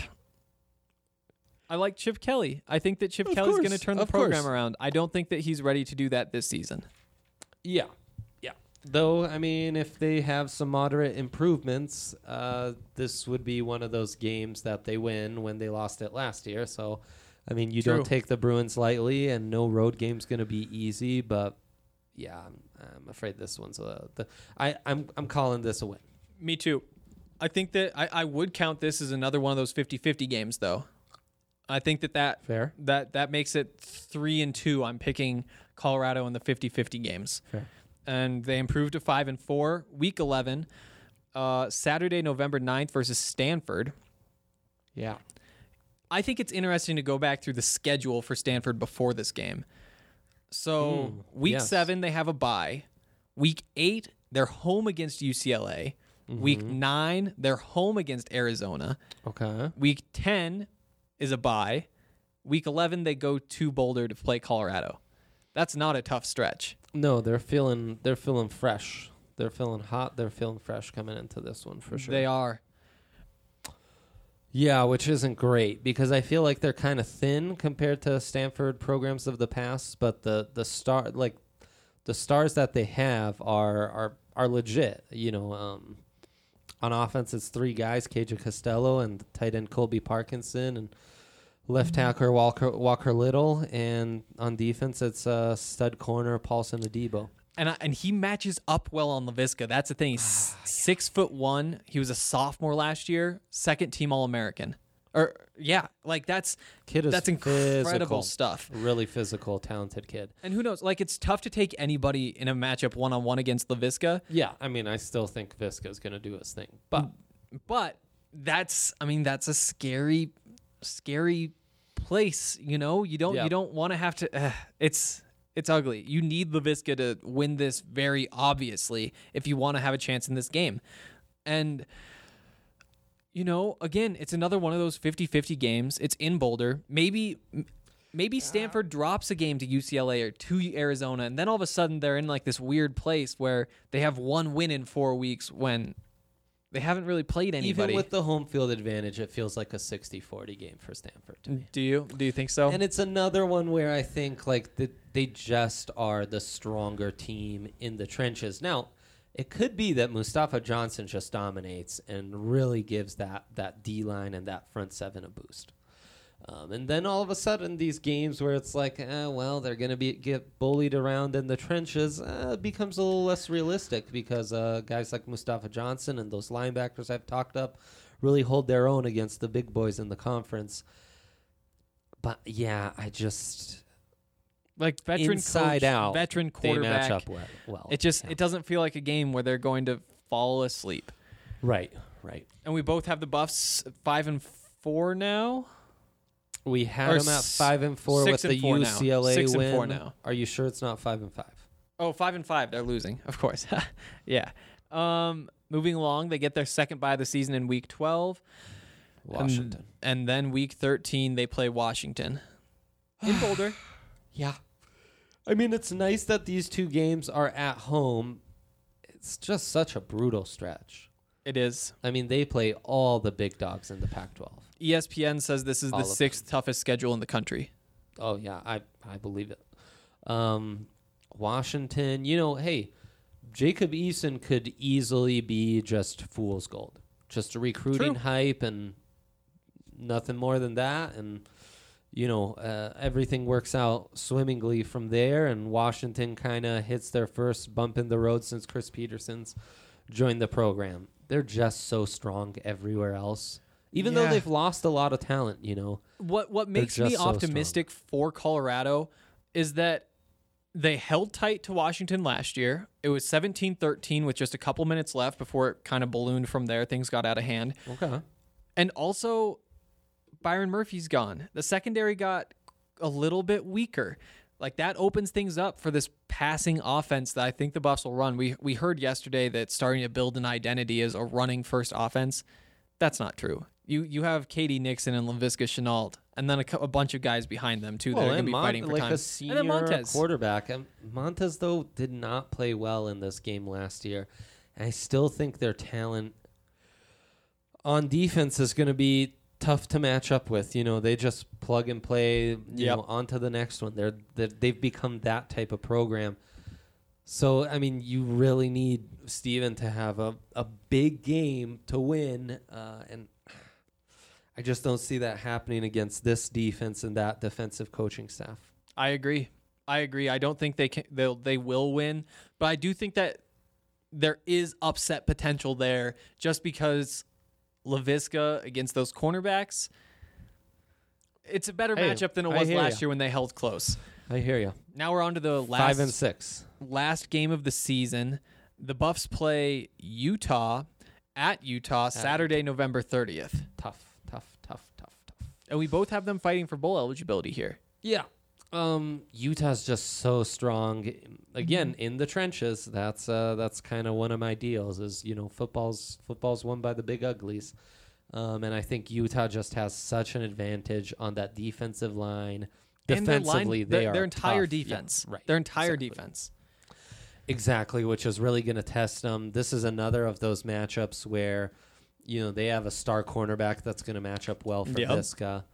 I like Chip Kelly. I think that Chip Of Kelly's course, going to turn the of program course. around. I don't think that he's ready to do that this season. Yeah. Though, I mean, if they have some moderate improvements, this would be one of those games that they win when they lost it last year. So, I mean, you True. don't take the Bruins lightly, and no road game's going to be easy. But yeah, I'm afraid this one's I'm calling this a win. Me too. I think that I would count this as another one of those 50-50 games, though. I think that Fair. that makes it 3-2. I'm picking Colorado in the 50-50 games. Fair. And they improved to 5-4. Week 11, Saturday, November 9th versus Stanford. Yeah. I think it's interesting to go back through the schedule for Stanford before this game. So week 7, they have a bye. Week 8, they're home against UCLA. Week 9, they're home against Arizona. Okay. Week 10 is a bye. Week 11, they go to Boulder to play Colorado. That's not a tough stretch. No, they're feeling fresh. They're feeling hot. They're feeling fresh coming into this one for sure. They are. Yeah, which isn't great because I feel like they're kind of thin compared to Stanford programs of the past, but the stars that they have are legit. On offense, it's 3 guys: KJ Costello and tight end Colby Parkinson and left tackle Walker Little, and on defense, it's stud corner Paulson Adebo. And he matches up well on LaVisca. That's the thing. He's 6'1". He was a sophomore last year, second team All-American. That's incredible physical stuff. Really physical, talented kid. And who knows? Like, it's tough to take anybody in a matchup one-on-one against LaVisca. Yeah, I mean, I still think Visca's going to do his thing, but that's a scary place. You don't want to have to. It's ugly. You need LaVisca to win this very obviously if you want to have a chance in this game. And, again, it's another one of those 50-50 games. It's in Boulder. Maybe Stanford drops a game to UCLA or to Arizona, and then all of a sudden they're in like this weird place where they have one win in 4 weeks when they haven't really played anybody. even with the home field advantage, it feels like a 60-40 game for Stanford to me. Do you think so? And it's another one where I think they just are the stronger team in the trenches. Now, it could be that Mustafa Johnson just dominates and really gives that D-line and that front 7 a boost. And then all of a sudden, these games where it's like, they're going to get bullied around in the trenches, becomes a little less realistic because guys like Mustafa Johnson and those linebackers I've talked up really hold their own against the big boys in the conference. But yeah, I just like veteran inside coach, out, veteran they quarterback. match up well. It doesn't feel like a game where they're going to fall asleep. Right. And we both have the Buffs 5-4 now. We had Or them at 5-4 with the 6-4 now. UCLA 6-4 win. now. Are you sure it's not 5-5? Oh, 5-5. They're losing, of course. Yeah. Moving along, they get their second bye of the season in week 12. Washington. And then week 13, they play Washington in Boulder. Yeah. I mean, it's nice that these two games are at home. It's just such a brutal stretch. It is. I mean, they play all the big dogs in the Pac-12. ESPN says this is the All of sixth toughest schedule in the country. Oh, yeah, I believe it. Washington, hey, Jacob Eason could easily be just fool's gold. Just a recruiting True. hype and nothing more than that. And, everything works out swimmingly from there. And Washington kind of hits their first bump in the road since Chris Peterson's joined the program. They're just so strong everywhere else. Even though they've lost a lot of talent, What makes me optimistic for Colorado is that they held tight to Washington last year. It was 17-13 with just a couple minutes left before it kind of ballooned from there. Things got out of hand. Okay. And also, Byron Murphy's gone. The secondary got a little bit weaker. Like, that opens things up for this passing offense that I think the Buffs will run. We heard yesterday that starting to build an identity as a running first offense. That's not true. You have Katie Nixon and Laviska Shenault, and then a bunch of guys behind them too that are going to be fighting for like time. a senior and then Montez. quarterback. Montez, though, did not play well in this game last year. And I still think their talent on defense is going to be tough to match up with. They just plug and play. You know, on to the next one. They've become that type of program. So, I mean, you really need Steven to have a big game to win, and I just don't see that happening against this defense and that defensive coaching staff. I agree. I don't think they will win, but I do think that there is upset potential there just because Laviska against those cornerbacks, it's a better matchup than it was last year when they held close. I hear you. Now we're on to the 5-6 last game of the season. The Buffs play Utah at Utah Saturday, November 30th. Tough. And we both have them fighting for bowl eligibility here. Yeah. Utah's just so strong. Again, in the trenches. That's kind of one of my deals. Is football's won by the big uglies, and I think Utah just has such an advantage on that defensive line. Defensively, their entire tough. defense, yeah, right? Their entire defense. Exactly, which is really going to test them. This is another of those matchups where, they have a star cornerback that's going to match up well for Viska.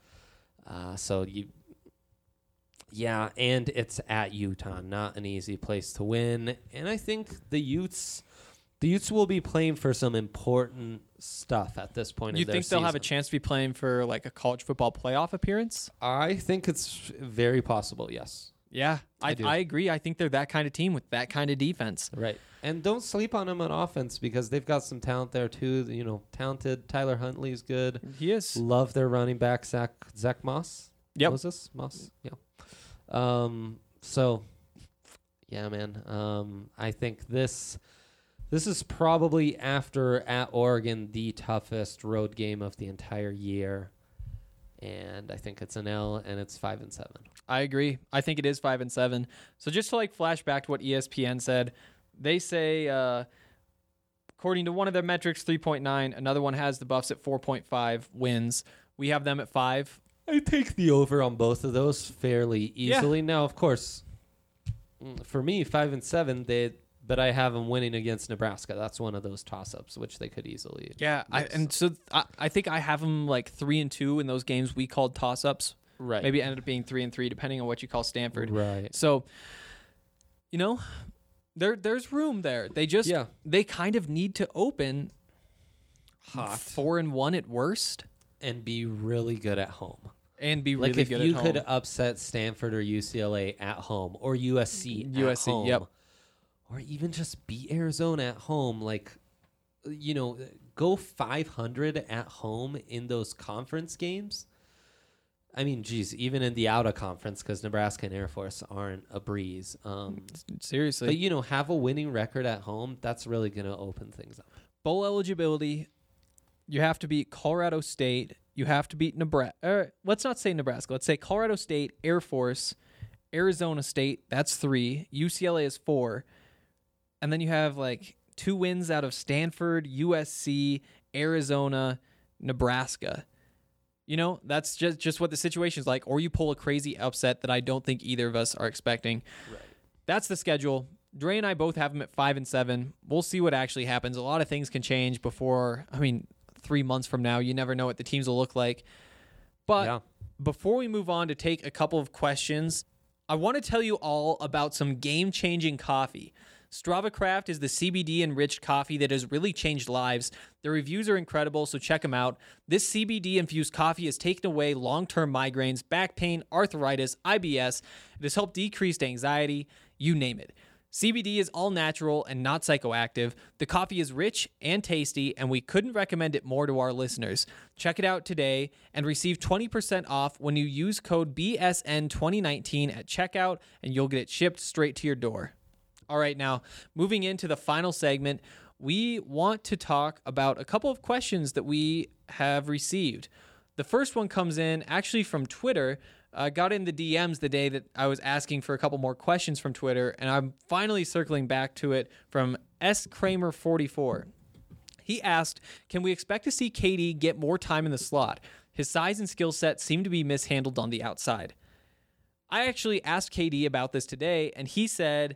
And it's at Utah, not an easy place to win. And I think the Utes will be playing for some important stuff at this point in their season. You think they'll have a chance to be playing for like a college football playoff appearance? I think it's very possible, yes. Yeah, I agree. I think they're that kind of team with that kind of defense. Right. And don't sleep on them on offense because they've got some talent there too. Talented. Tyler Huntley's good. He is. Love their running back, Zach Moss. Yep. Was this Moss? Yeah. So, yeah, man. I think this is probably after at Oregon the toughest road game of the entire year. And I think it's an L, and it's 5-7. I agree. I think it is 5-7. So just to flash back to what ESPN said, they say, according to one of their metrics, 3.9. Another one has the Buffs at 4.5 wins. We have them at 5. I take the over on both of those fairly easily. Yeah. Now, of course, for me, 5-7, but I have them winning against Nebraska. That's one of those toss-ups, which they could easily. Yeah, I think I have them 3-2 in those games we called toss-ups. Right. Maybe it ended up being 3-3, depending on what you call Stanford. Right. So, there's room there. They kind of need to open hot 4-1 at worst and be really good at home. And be really good at home. If you could upset Stanford or UCLA at home or USC at home. Yep. Or even just beat Arizona at home, go 500 at home in those conference games. I mean, geez, even in the out of conference, because Nebraska and Air Force aren't a breeze. Seriously. But, have a winning record at home, that's really going to open things up. Bowl eligibility, you have to beat Colorado State. You have to beat Nebraska. Let's not say Nebraska. Let's say Colorado State, Air Force, Arizona State, that's 3. UCLA is 4. And then you have like 2 wins out of Stanford, USC, Arizona, Nebraska. You know, that's just what the situation's like. Or you pull a crazy upset that I don't think either of us are expecting. Right. That's the schedule. Dre and I both have them at 5 and 7. We'll see what actually happens. A lot of things can change before, 3 months from now. You never know what the teams will look like. But before we move on to take a couple of questions, I want to tell you all about some game-changing coffee. Strava Craft is the CBD-enriched coffee that has really changed lives. The reviews are incredible, so check them out. This CBD-infused coffee has taken away long-term migraines, back pain, arthritis, IBS. It has helped decrease anxiety, you name it. CBD is all natural and not psychoactive. The coffee is rich and tasty, and we couldn't recommend it more to our listeners. Check it out today and receive 20% off when you use code BSN2019 at checkout, and you'll get it shipped straight to your door. All right, now, moving into the final segment, we want to talk about a couple of questions that we have received. The first one comes in actually from Twitter. I got in the DMs the day that I was asking for a couple more questions from Twitter, and I'm finally circling back to it from S. Kramer44. He asked, can we expect to see KD get more time in the slot? His size and skill set seem to be mishandled on the outside. I actually asked KD about this today, and he said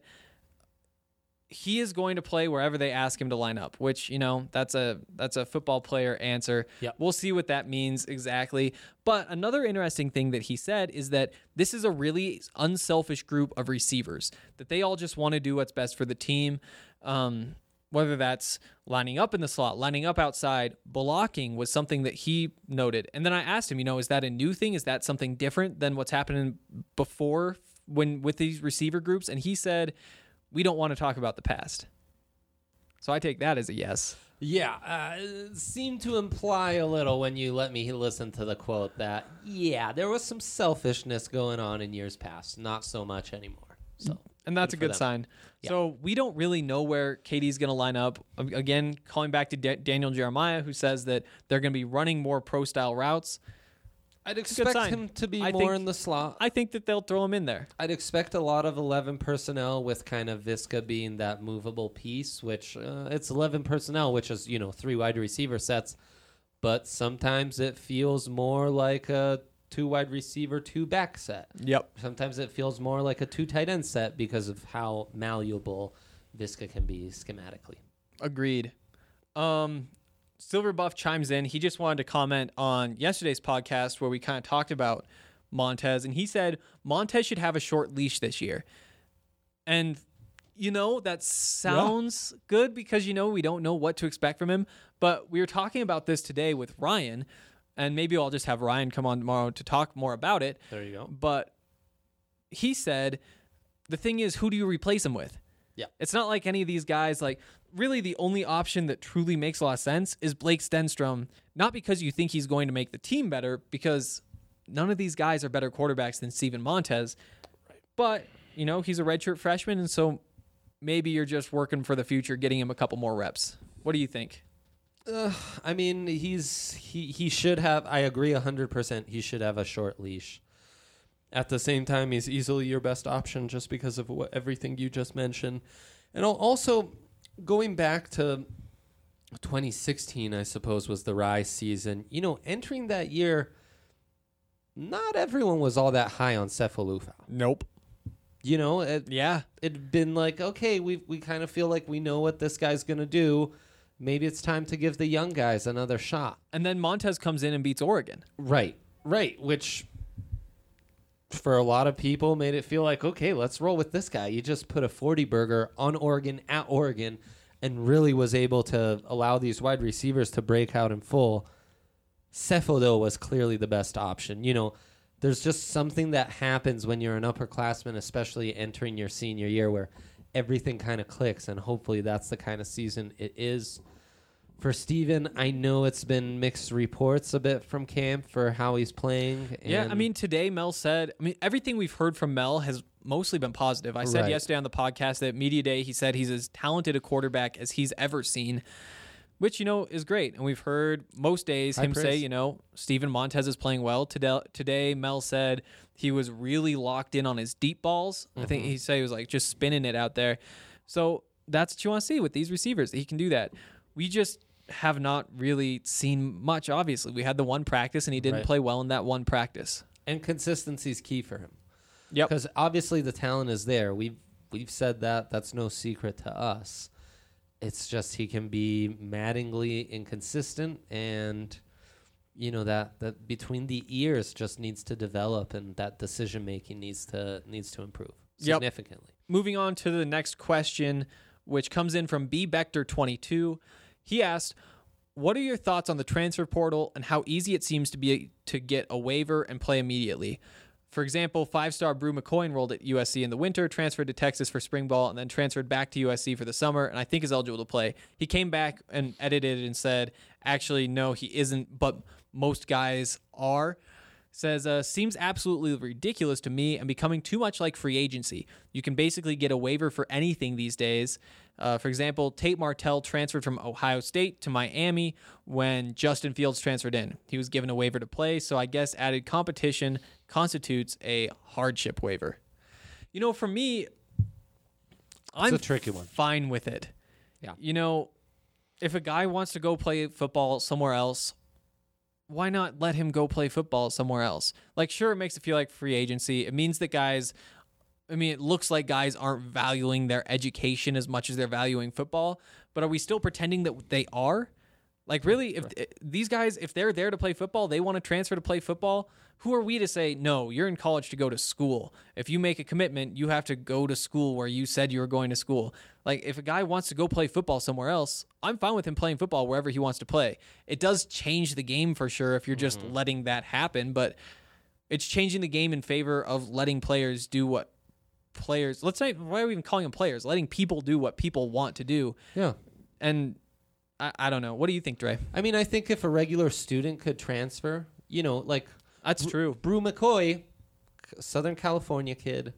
he is going to play wherever they ask him to line up, which, you know, that's a football player answer. Yep. We'll see what that means exactly. But another interesting thing that he said is that this is a really unselfish group of receivers, that they all just want to do what's best for the team. Whether that's lining up in the slot, lining up outside, blocking was something that he noted. And then I asked him, you know, is that a new thing? Is that something different than what's happening before with these receiver groups? And he said, we don't want to talk about the past. So I take that as a yes. Yeah, seemed to imply a little when you let me listen to the quote that, there was some selfishness going on in years past, not so much anymore. So, and that's a good sign. Yeah. So we don't really know where KD's going to line up. Again, calling back to Daniel Jeremiah, who says that they're going to be running more pro-style routes. I'd expect him to be more in the slot. I think that they'll throw him in there. I'd expect a lot of 11 personnel with kind of Viska being that movable piece, which it's 11 personnel, which is, 3 wide receiver sets. But sometimes it feels more like a 2 wide receiver, 2 back set. Yep. Sometimes it feels more like a 2 tight end set because of how malleable Viska can be schematically. Agreed. Silver Buff chimes in. He just wanted to comment on yesterday's podcast where we kind of talked about Montez, and he said Montez should have a short leash this year. And, that sounds good because, we don't know what to expect from him. But we were talking about this today with Ryan, and maybe I'll just have Ryan come on tomorrow to talk more about it. There you go. But he said, the thing is, who do you replace him with? Yeah. It's not like any of these guys, really the only option that truly makes a lot of sense is Blake Stenstrom, not because you think he's going to make the team better, because none of these guys are better quarterbacks than Steven Montez. Right. But, he's a redshirt freshman, and so maybe you're just working for the future, getting him a couple more reps. What do you think? He should have, I agree 100%, he should have a short leash. At the same time, he's easily your best option just because of everything you just mentioned. And also, going back to 2016, I suppose, was the rise season. Entering that year, not everyone was all that high on Cephalufau. Nope. It'd been like, okay, we kind of feel like we know what this guy's going to do. Maybe it's time to give the young guys another shot. And then Montez comes in and beats Oregon. Right, which for a lot of people made it feel like, okay, let's roll with this guy. You just put a 40 burger on Oregon at Oregon and really was able to allow these wide receivers to break out in full. Cepho, though, was clearly the best option. There's just something that happens when you're an upperclassman, especially entering your senior year, where everything kind of clicks, and hopefully that's the kind of season it is. For Steven, I know it's been mixed reports a bit from camp for how he's playing. Today Mel said, everything we've heard from Mel has mostly been positive. I said yesterday on the podcast that Media Day, he said he's as talented a quarterback as he's ever seen. which, is great. And we've heard most days High him praise. say, Steven Montez is playing well. Today, Mel said he was really locked in on his deep balls. I think he said he was like just spinning it out there. So that's what you want to see with these receivers. He can do that. We just have not really seen much, obviously. We had the one practice, and he didn't Right. play well in that one practice. And consistency is key for him. Yep. Because obviously the talent is there. We've said that. That's no secret to us. It's just he can be maddeningly inconsistent, and that between the ears just needs to develop, and that decision making needs to improve significantly. Moving on to the next question, which comes in from B Bector 22. He asked, "What are your thoughts on the transfer portal and how easy it seems to be to get a waiver and play immediately? For example, 5-star Brew McCoy enrolled at USC in the winter, transferred to Texas for spring ball, and then transferred back to USC for the summer, and I think is eligible to play. He came back and edited and said, actually, no, he isn't, but most guys are. Says, seems absolutely ridiculous to me and becoming too much like free agency. You can basically get a waiver for anything these days. For example, Tate Martell transferred from Ohio State to Miami when Justin Fields transferred in. He was given a waiver to play, so I guess added competition constitutes a hardship waiver. For me, I'm a tricky one. fine with it. Yeah. If a guy wants to go play football somewhere else, why not let him go play football somewhere else? Like, sure, it makes it feel like free agency. It means that it looks like guys aren't valuing their education as much as they're valuing football, but are we still pretending that they are? Like, really, if these guys, if they're there to play football, they want to transfer to play football, who are we to say, no, you're in college to go to school. If you make a commitment, you have to go to school where you said you were going to school. Like, if a guy wants to go play football somewhere else, I'm fine with him playing football wherever he wants to play. It does change the game for sure if you're just letting that happen, but it's changing the game in favor of letting players do what players, let's say, why are we even calling them players? Letting people do what people want to do. Yeah. And I don't know. What do you think, Dre? I mean, I think if a regular student could transfer, like That's true. Brew McCoy, Southern California kid,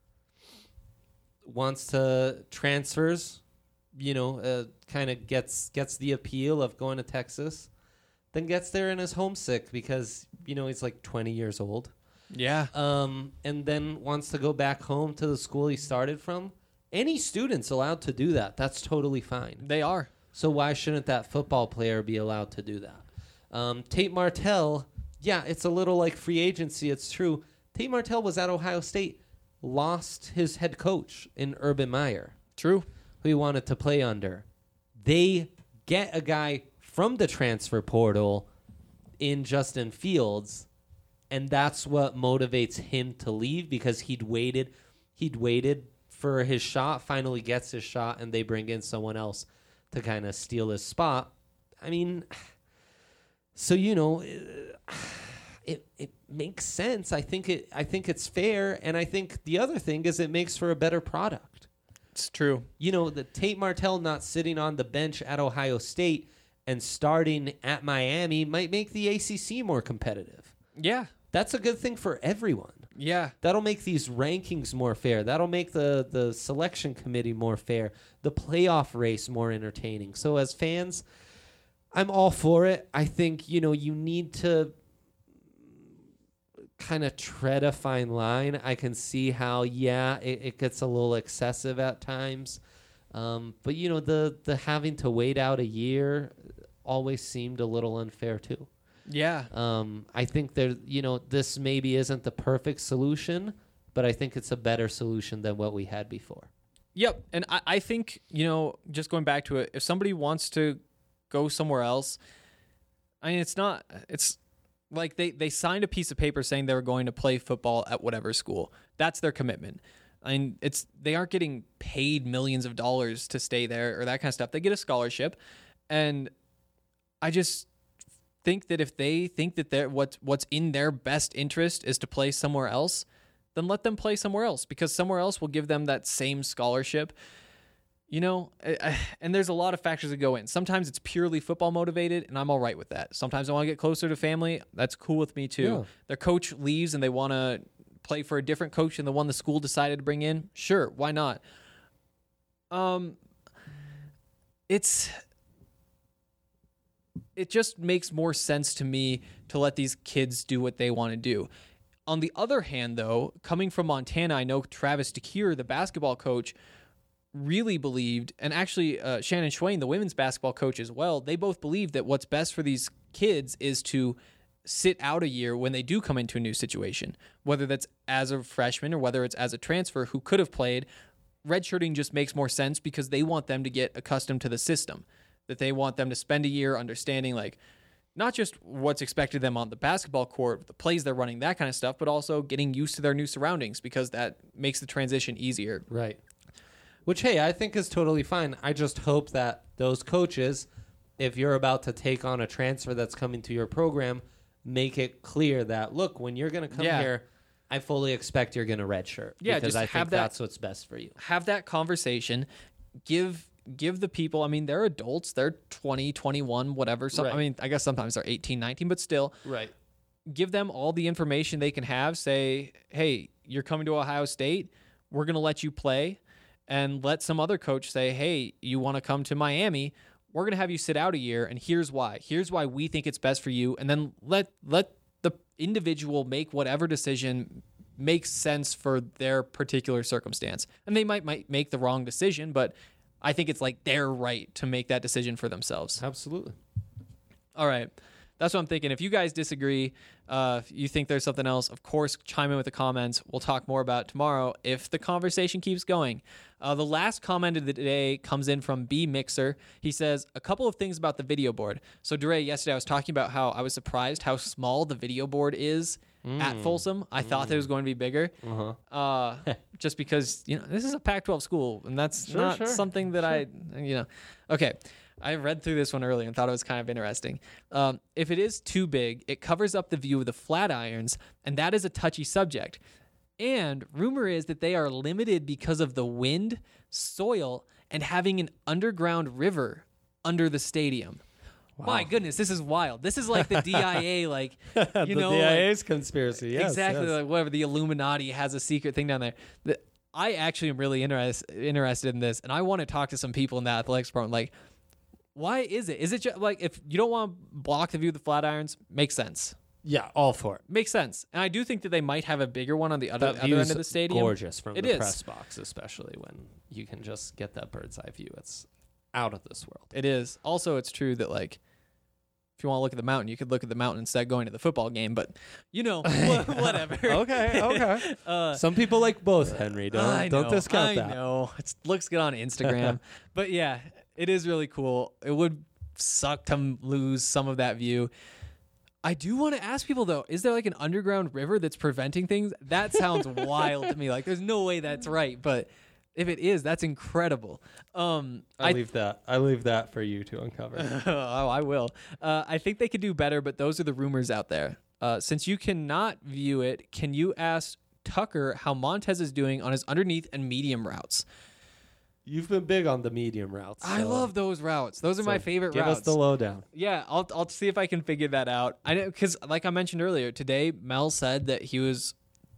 wants to transfers, kind of gets the appeal of going to Texas, then gets there and is homesick because, he's like 20 years old. Yeah. And then wants to go back home to the school he started from. Any student's allowed to do that. That's totally fine. They are. So why shouldn't that football player be allowed to do that? Tate Martell, yeah, it's a little like free agency. It's true. Tate Martell was at Ohio State, lost his head coach in Urban Meyer. True. Who he wanted to play under. They get a guy from the transfer portal in Justin Fields, and that's what motivates him to leave because he'd waited for his shot, finally gets his shot, and they bring in someone else to kind of steal his spot. I mean, so it makes sense. I think it's fair, and I think the other thing is it makes for a better product. It's true. The Tate Martell not sitting on the bench at Ohio State and starting at Miami might make the ACC more competitive. Yeah. That's a good thing for everyone. Yeah. That'll make these rankings more fair. That'll make the selection committee more fair, the playoff race more entertaining. So as fans, I'm all for it. I think, you need to kind of tread a fine line. I can see how, it gets a little excessive at times. But, the having to wait out a year always seemed a little unfair too. Yeah. I think this maybe isn't the perfect solution, but I think it's a better solution than what we had before. Yep. And I think, just going back to it, if somebody wants to go somewhere else, I mean, it's like they signed a piece of paper saying they were going to play football at whatever school. That's their commitment. I mean, they aren't getting paid millions of dollars to stay there or that kind of stuff. They get a scholarship. And I just think that if they think that what's in their best interest is to play somewhere else, then let them play somewhere else because somewhere else will give them that same scholarship. And there's a lot of factors that go in. Sometimes it's purely football motivated, and I'm all right with that. Sometimes I want to get closer to family. That's cool with me too. Yeah. Their coach leaves and they want to play for a different coach than the one the school decided to bring in. Sure, why not? it just makes more sense to me to let these kids do what they want to do. On the other hand, though, coming from Montana, I know Travis DeCuire, the basketball coach, really believed, and actually Shannon Schwain, the women's basketball coach as well, they both believe that what's best for these kids is to sit out a year when they do come into a new situation, whether that's as a freshman or whether it's as a transfer who could have played. Redshirting just makes more sense because they want them to get accustomed to the system, that they want them to spend a year understanding, like, not just what's expected of them on the basketball court, the plays they're running, that kind of stuff, but also getting used to their new surroundings because that makes the transition easier. Right. Which, hey, I think is totally fine. I just hope that those coaches, if you're about to take on a transfer that's coming to your program, make it clear that, look, when you're going to come here, I fully expect you're going to redshirt. Yeah, because just I think that's what's best for you. Have that conversation. Give the people, I mean, they're adults. They're 20, 21, whatever. So, Right. I mean, I guess sometimes they're 18, 19, but still. Right. Give them all the information they can have. Say, hey, you're coming to Ohio State. We're going to let you play. And let some other coach say, hey, you want to come to Miami? We're going to have you sit out a year, and here's why. Here's why we think it's best for you. And then let the individual make whatever decision makes sense for their particular circumstance. And they might make the wrong decision, but I think it's like their right to make that decision for themselves. Absolutely. All right. That's what I'm thinking. If you guys disagree, if you think there's something else, of course, chime in with the comments. We'll talk more about it tomorrow if the conversation keeps going. The last comment of the day comes in from B Mixer. He says, a couple of things about the video board. So, DeRay, yesterday I was talking about how I was surprised how small the video board is at Folsom. I thought that it was going to be bigger. Just because, this is a Pac-12 school, and that's not something that Okay. I read through this one earlier and thought it was kind of interesting. If it is too big, it covers up the view of the Flatirons, and that is a touchy subject. And rumor is that they are limited because of the wind, soil, and having an underground river under the stadium. Wow. My goodness, this is wild. This is like the DIA, the DIA's conspiracy. Yes, exactly, yes. like whatever. The Illuminati has a secret thing down there. I actually am really interested in this, and I want to talk to some people in the athletics department. Like, why is it? Is it just like if you don't want to block the view of the Flatirons? Makes sense. Yeah, all for it. Makes sense. And I do think that they might have a bigger one on the other end of the stadium. Gorgeous from the press box, especially when you can just get that bird's eye view. It's out of this world. It is. Also, it's true that if you want to look at the mountain, you could look at the mountain instead of going to the football game. But whatever. Okay. Some people like both, Henry. Don't discount that. I know. It looks good on Instagram. But yeah, it is really cool. It would suck to lose some of that view. I do want to ask people, though, is there like an underground river that's preventing things? That sounds wild to me. Like, there's no way that's right. But if it is, that's incredible. I leave that for you to uncover. Oh, I will. I think they could do better, but those are the rumors out there. Since you cannot view it, can you ask Tucker how Montez is doing on his underneath and medium routes? You've been big on the medium routes. I love those routes. Those are my favorite routes. Give us the lowdown. Yeah, I'll see if I can figure that out. I know, because like I mentioned earlier, today Mel said that he was,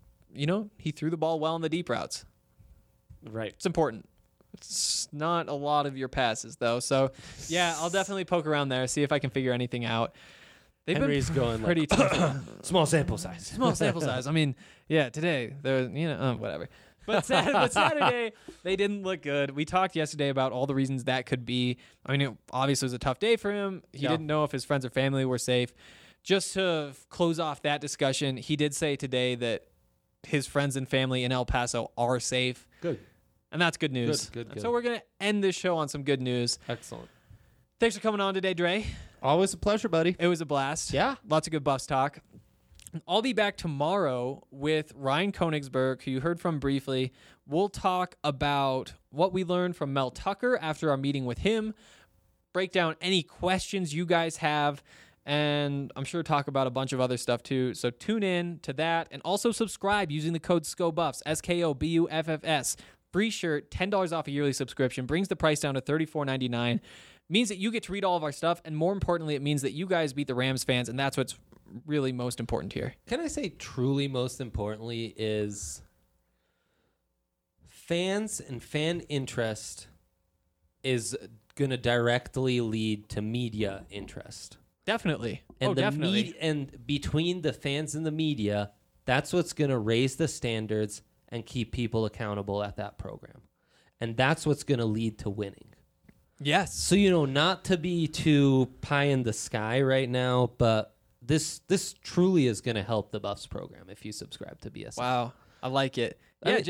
he threw the ball well in the deep routes. Right. It's important. It's not a lot of your passes, though. So, yeah, I'll definitely poke around there, see if I can figure anything out. Henry's going pretty tough. Small sample size. Small sample size. I mean, yeah, today, whatever. But Saturday, they didn't look good. We talked yesterday about all the reasons that could be. I mean, obviously it was a tough day for him. He didn't know if his friends or family were safe. Just to close off that discussion, he did say today that his friends and family in El Paso are safe. Good. And that's good news. Good. So we're going to end this show on some good news. Excellent. Thanks for coming on today, Dre. Always a pleasure, buddy. It was a blast. Yeah. Lots of good Buffs talk. I'll be back tomorrow with Ryan Konigsberg, who you heard from briefly. We'll talk about what we learned from Mel Tucker after our meeting with him, break down any questions you guys have, and I'm sure talk about a bunch of other stuff too. So tune in to that, and also subscribe using the code SCOBUFFS, SKOBUFFS. Free shirt, $10 off a yearly subscription, brings the price down to $34.99. Means that you get to read all of our stuff, and more importantly, it means that you guys beat the Rams fans, and that's what's really most important here. Can I say truly most importantly is fans and fan interest is going to directly lead to media interest. Definitely. And definitely. And between the fans and the media, that's what's going to raise the standards and keep people accountable at that program. And that's what's going to lead to winning. Yes. So, not to be too pie in the sky right now, but this truly is going to help the Buffs program if you subscribe to BSN. Wow. I like it.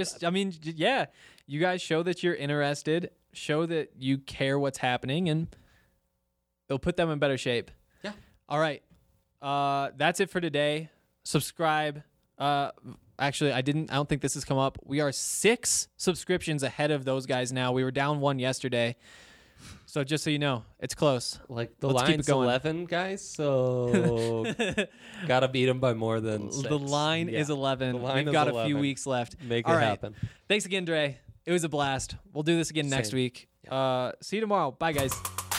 Yeah, you guys show that you're interested, show that you care what's happening, and it'll put them in better shape. Yeah. All right. That's it for today. Subscribe. Actually, I don't think this has come up. We are 6 subscriptions ahead of those guys now. We were down 1 yesterday. So just so you know, it's close. Like the Let's keep it line's going. 11, guys, so gotta beat them by more than 6. The line is 11. We've got a few weeks left. Make All it right. happen. Thanks again, Dre. It was a blast. We'll do this again next week. See you tomorrow. Bye, guys.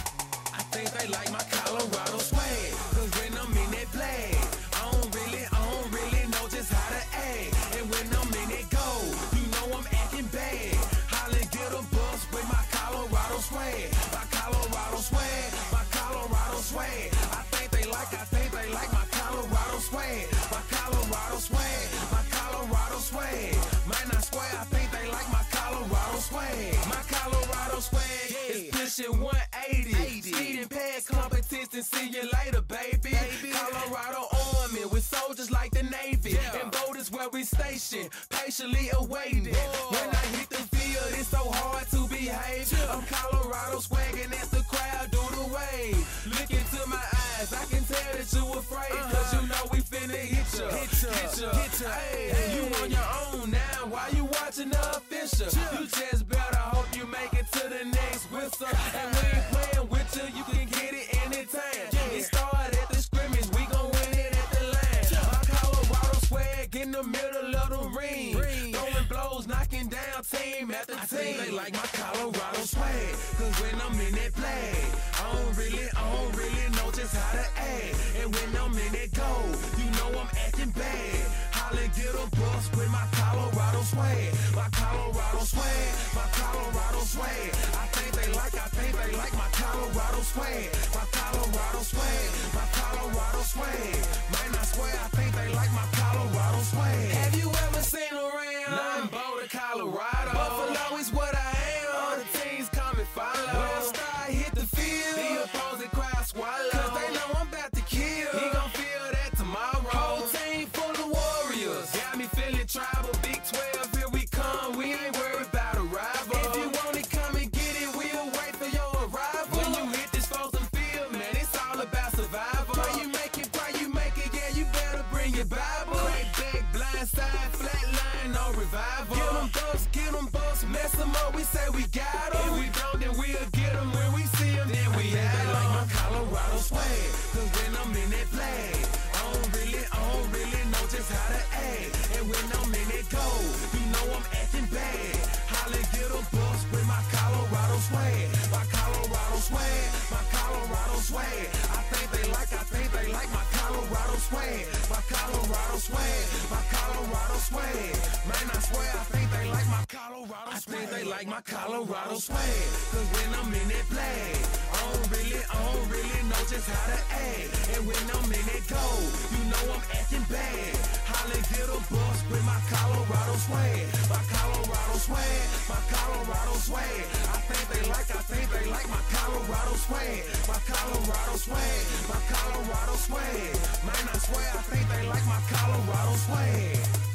I think they like my Colorado swag, 'cause when I'm in that flag, I don't really know just how to act. And when I'm in that goal, you know I'm acting bad. Holla, get a bus with my Colorado swag. My Colorado swag, my Colorado swag. I think they like my Colorado swag. My Colorado swag, my Colorado swag. Might not swear, I think they like my Colorado swag. My Colorado swag is pushing 180. Speed and pad competition, see you later, baby. Colorado Army with soldiers like the Navy. And boat is where we station, patiently awaiting. When I hit the field, it's so hard to behave. I'm Colorado swagging as the crowd do the wave. Look into my eyes, I can tell that you afraid. 'Cause you know we finna hit ya. Hey, you on your own now, why you watching the official? You just better hope you make it to the next whistle. And we ain't playing with you can get it anytime. It started at the scrimmage, we gon' win it at the line. My Colorado swag in the middle of the ring. Throwing blows, knocking down team after team. I think they like my Colorado swag, 'cause when I'm in that flag, I don't really know just how to act. And when I'm in that goal, you know I'm acting bad. Holla, get a bus with my Colorado swag. My Colorado swag, my Colorado swag. I think they like my Colorado swag. My Colorado swag, my Colorado swag. Might not swear, I think they like my Colorado swag. Have you ever seen around? Nah, I'm Boulder, Colorado. Buffalo is what I am. All the teams come and follow. When I start hit the field, the opposing crowd swallow. 'Cause they know I'm about to kill. He gon' feel that tomorrow. Whole team full of warriors. Got me feeling tribal. Big 12, here we come. We ain't worried about a rival. If you want it, come and get it. We'll wait for your arrival. When you hit this frozen field, man, it's all about survival. Pray you make it, yeah, you better bring your Bible. Crack back, blind side, flat line, no revival. Get them bucks, mess them up, we say we got them. If we don't, then we'll get them. When we see them, then we have them. Like my Colorado swag, 'cause when I'm in that flag, I don't really know just how to act. And when I'm in that goal, you know I'm acting bad. Holla, get a bus with my Colorado swag. My Colorado swag, my Colorado swag. I think they like my Colorado swag. My Colorado swag, my Colorado swag. Man, I swear, I think they like my Colorado swag. I think they like my Colorado swag. 'Cause when I'm in that flag, I don't really know just how to act. And when I'm in that goal, you know I'm acting bad. Holla, get a bus with my Colorado swag. My Colorado swag, my Colorado swag. I think they like my Colorado swag. My Colorado swag, my Colorado swag. Man, I swear, I think they like my Colorado swag.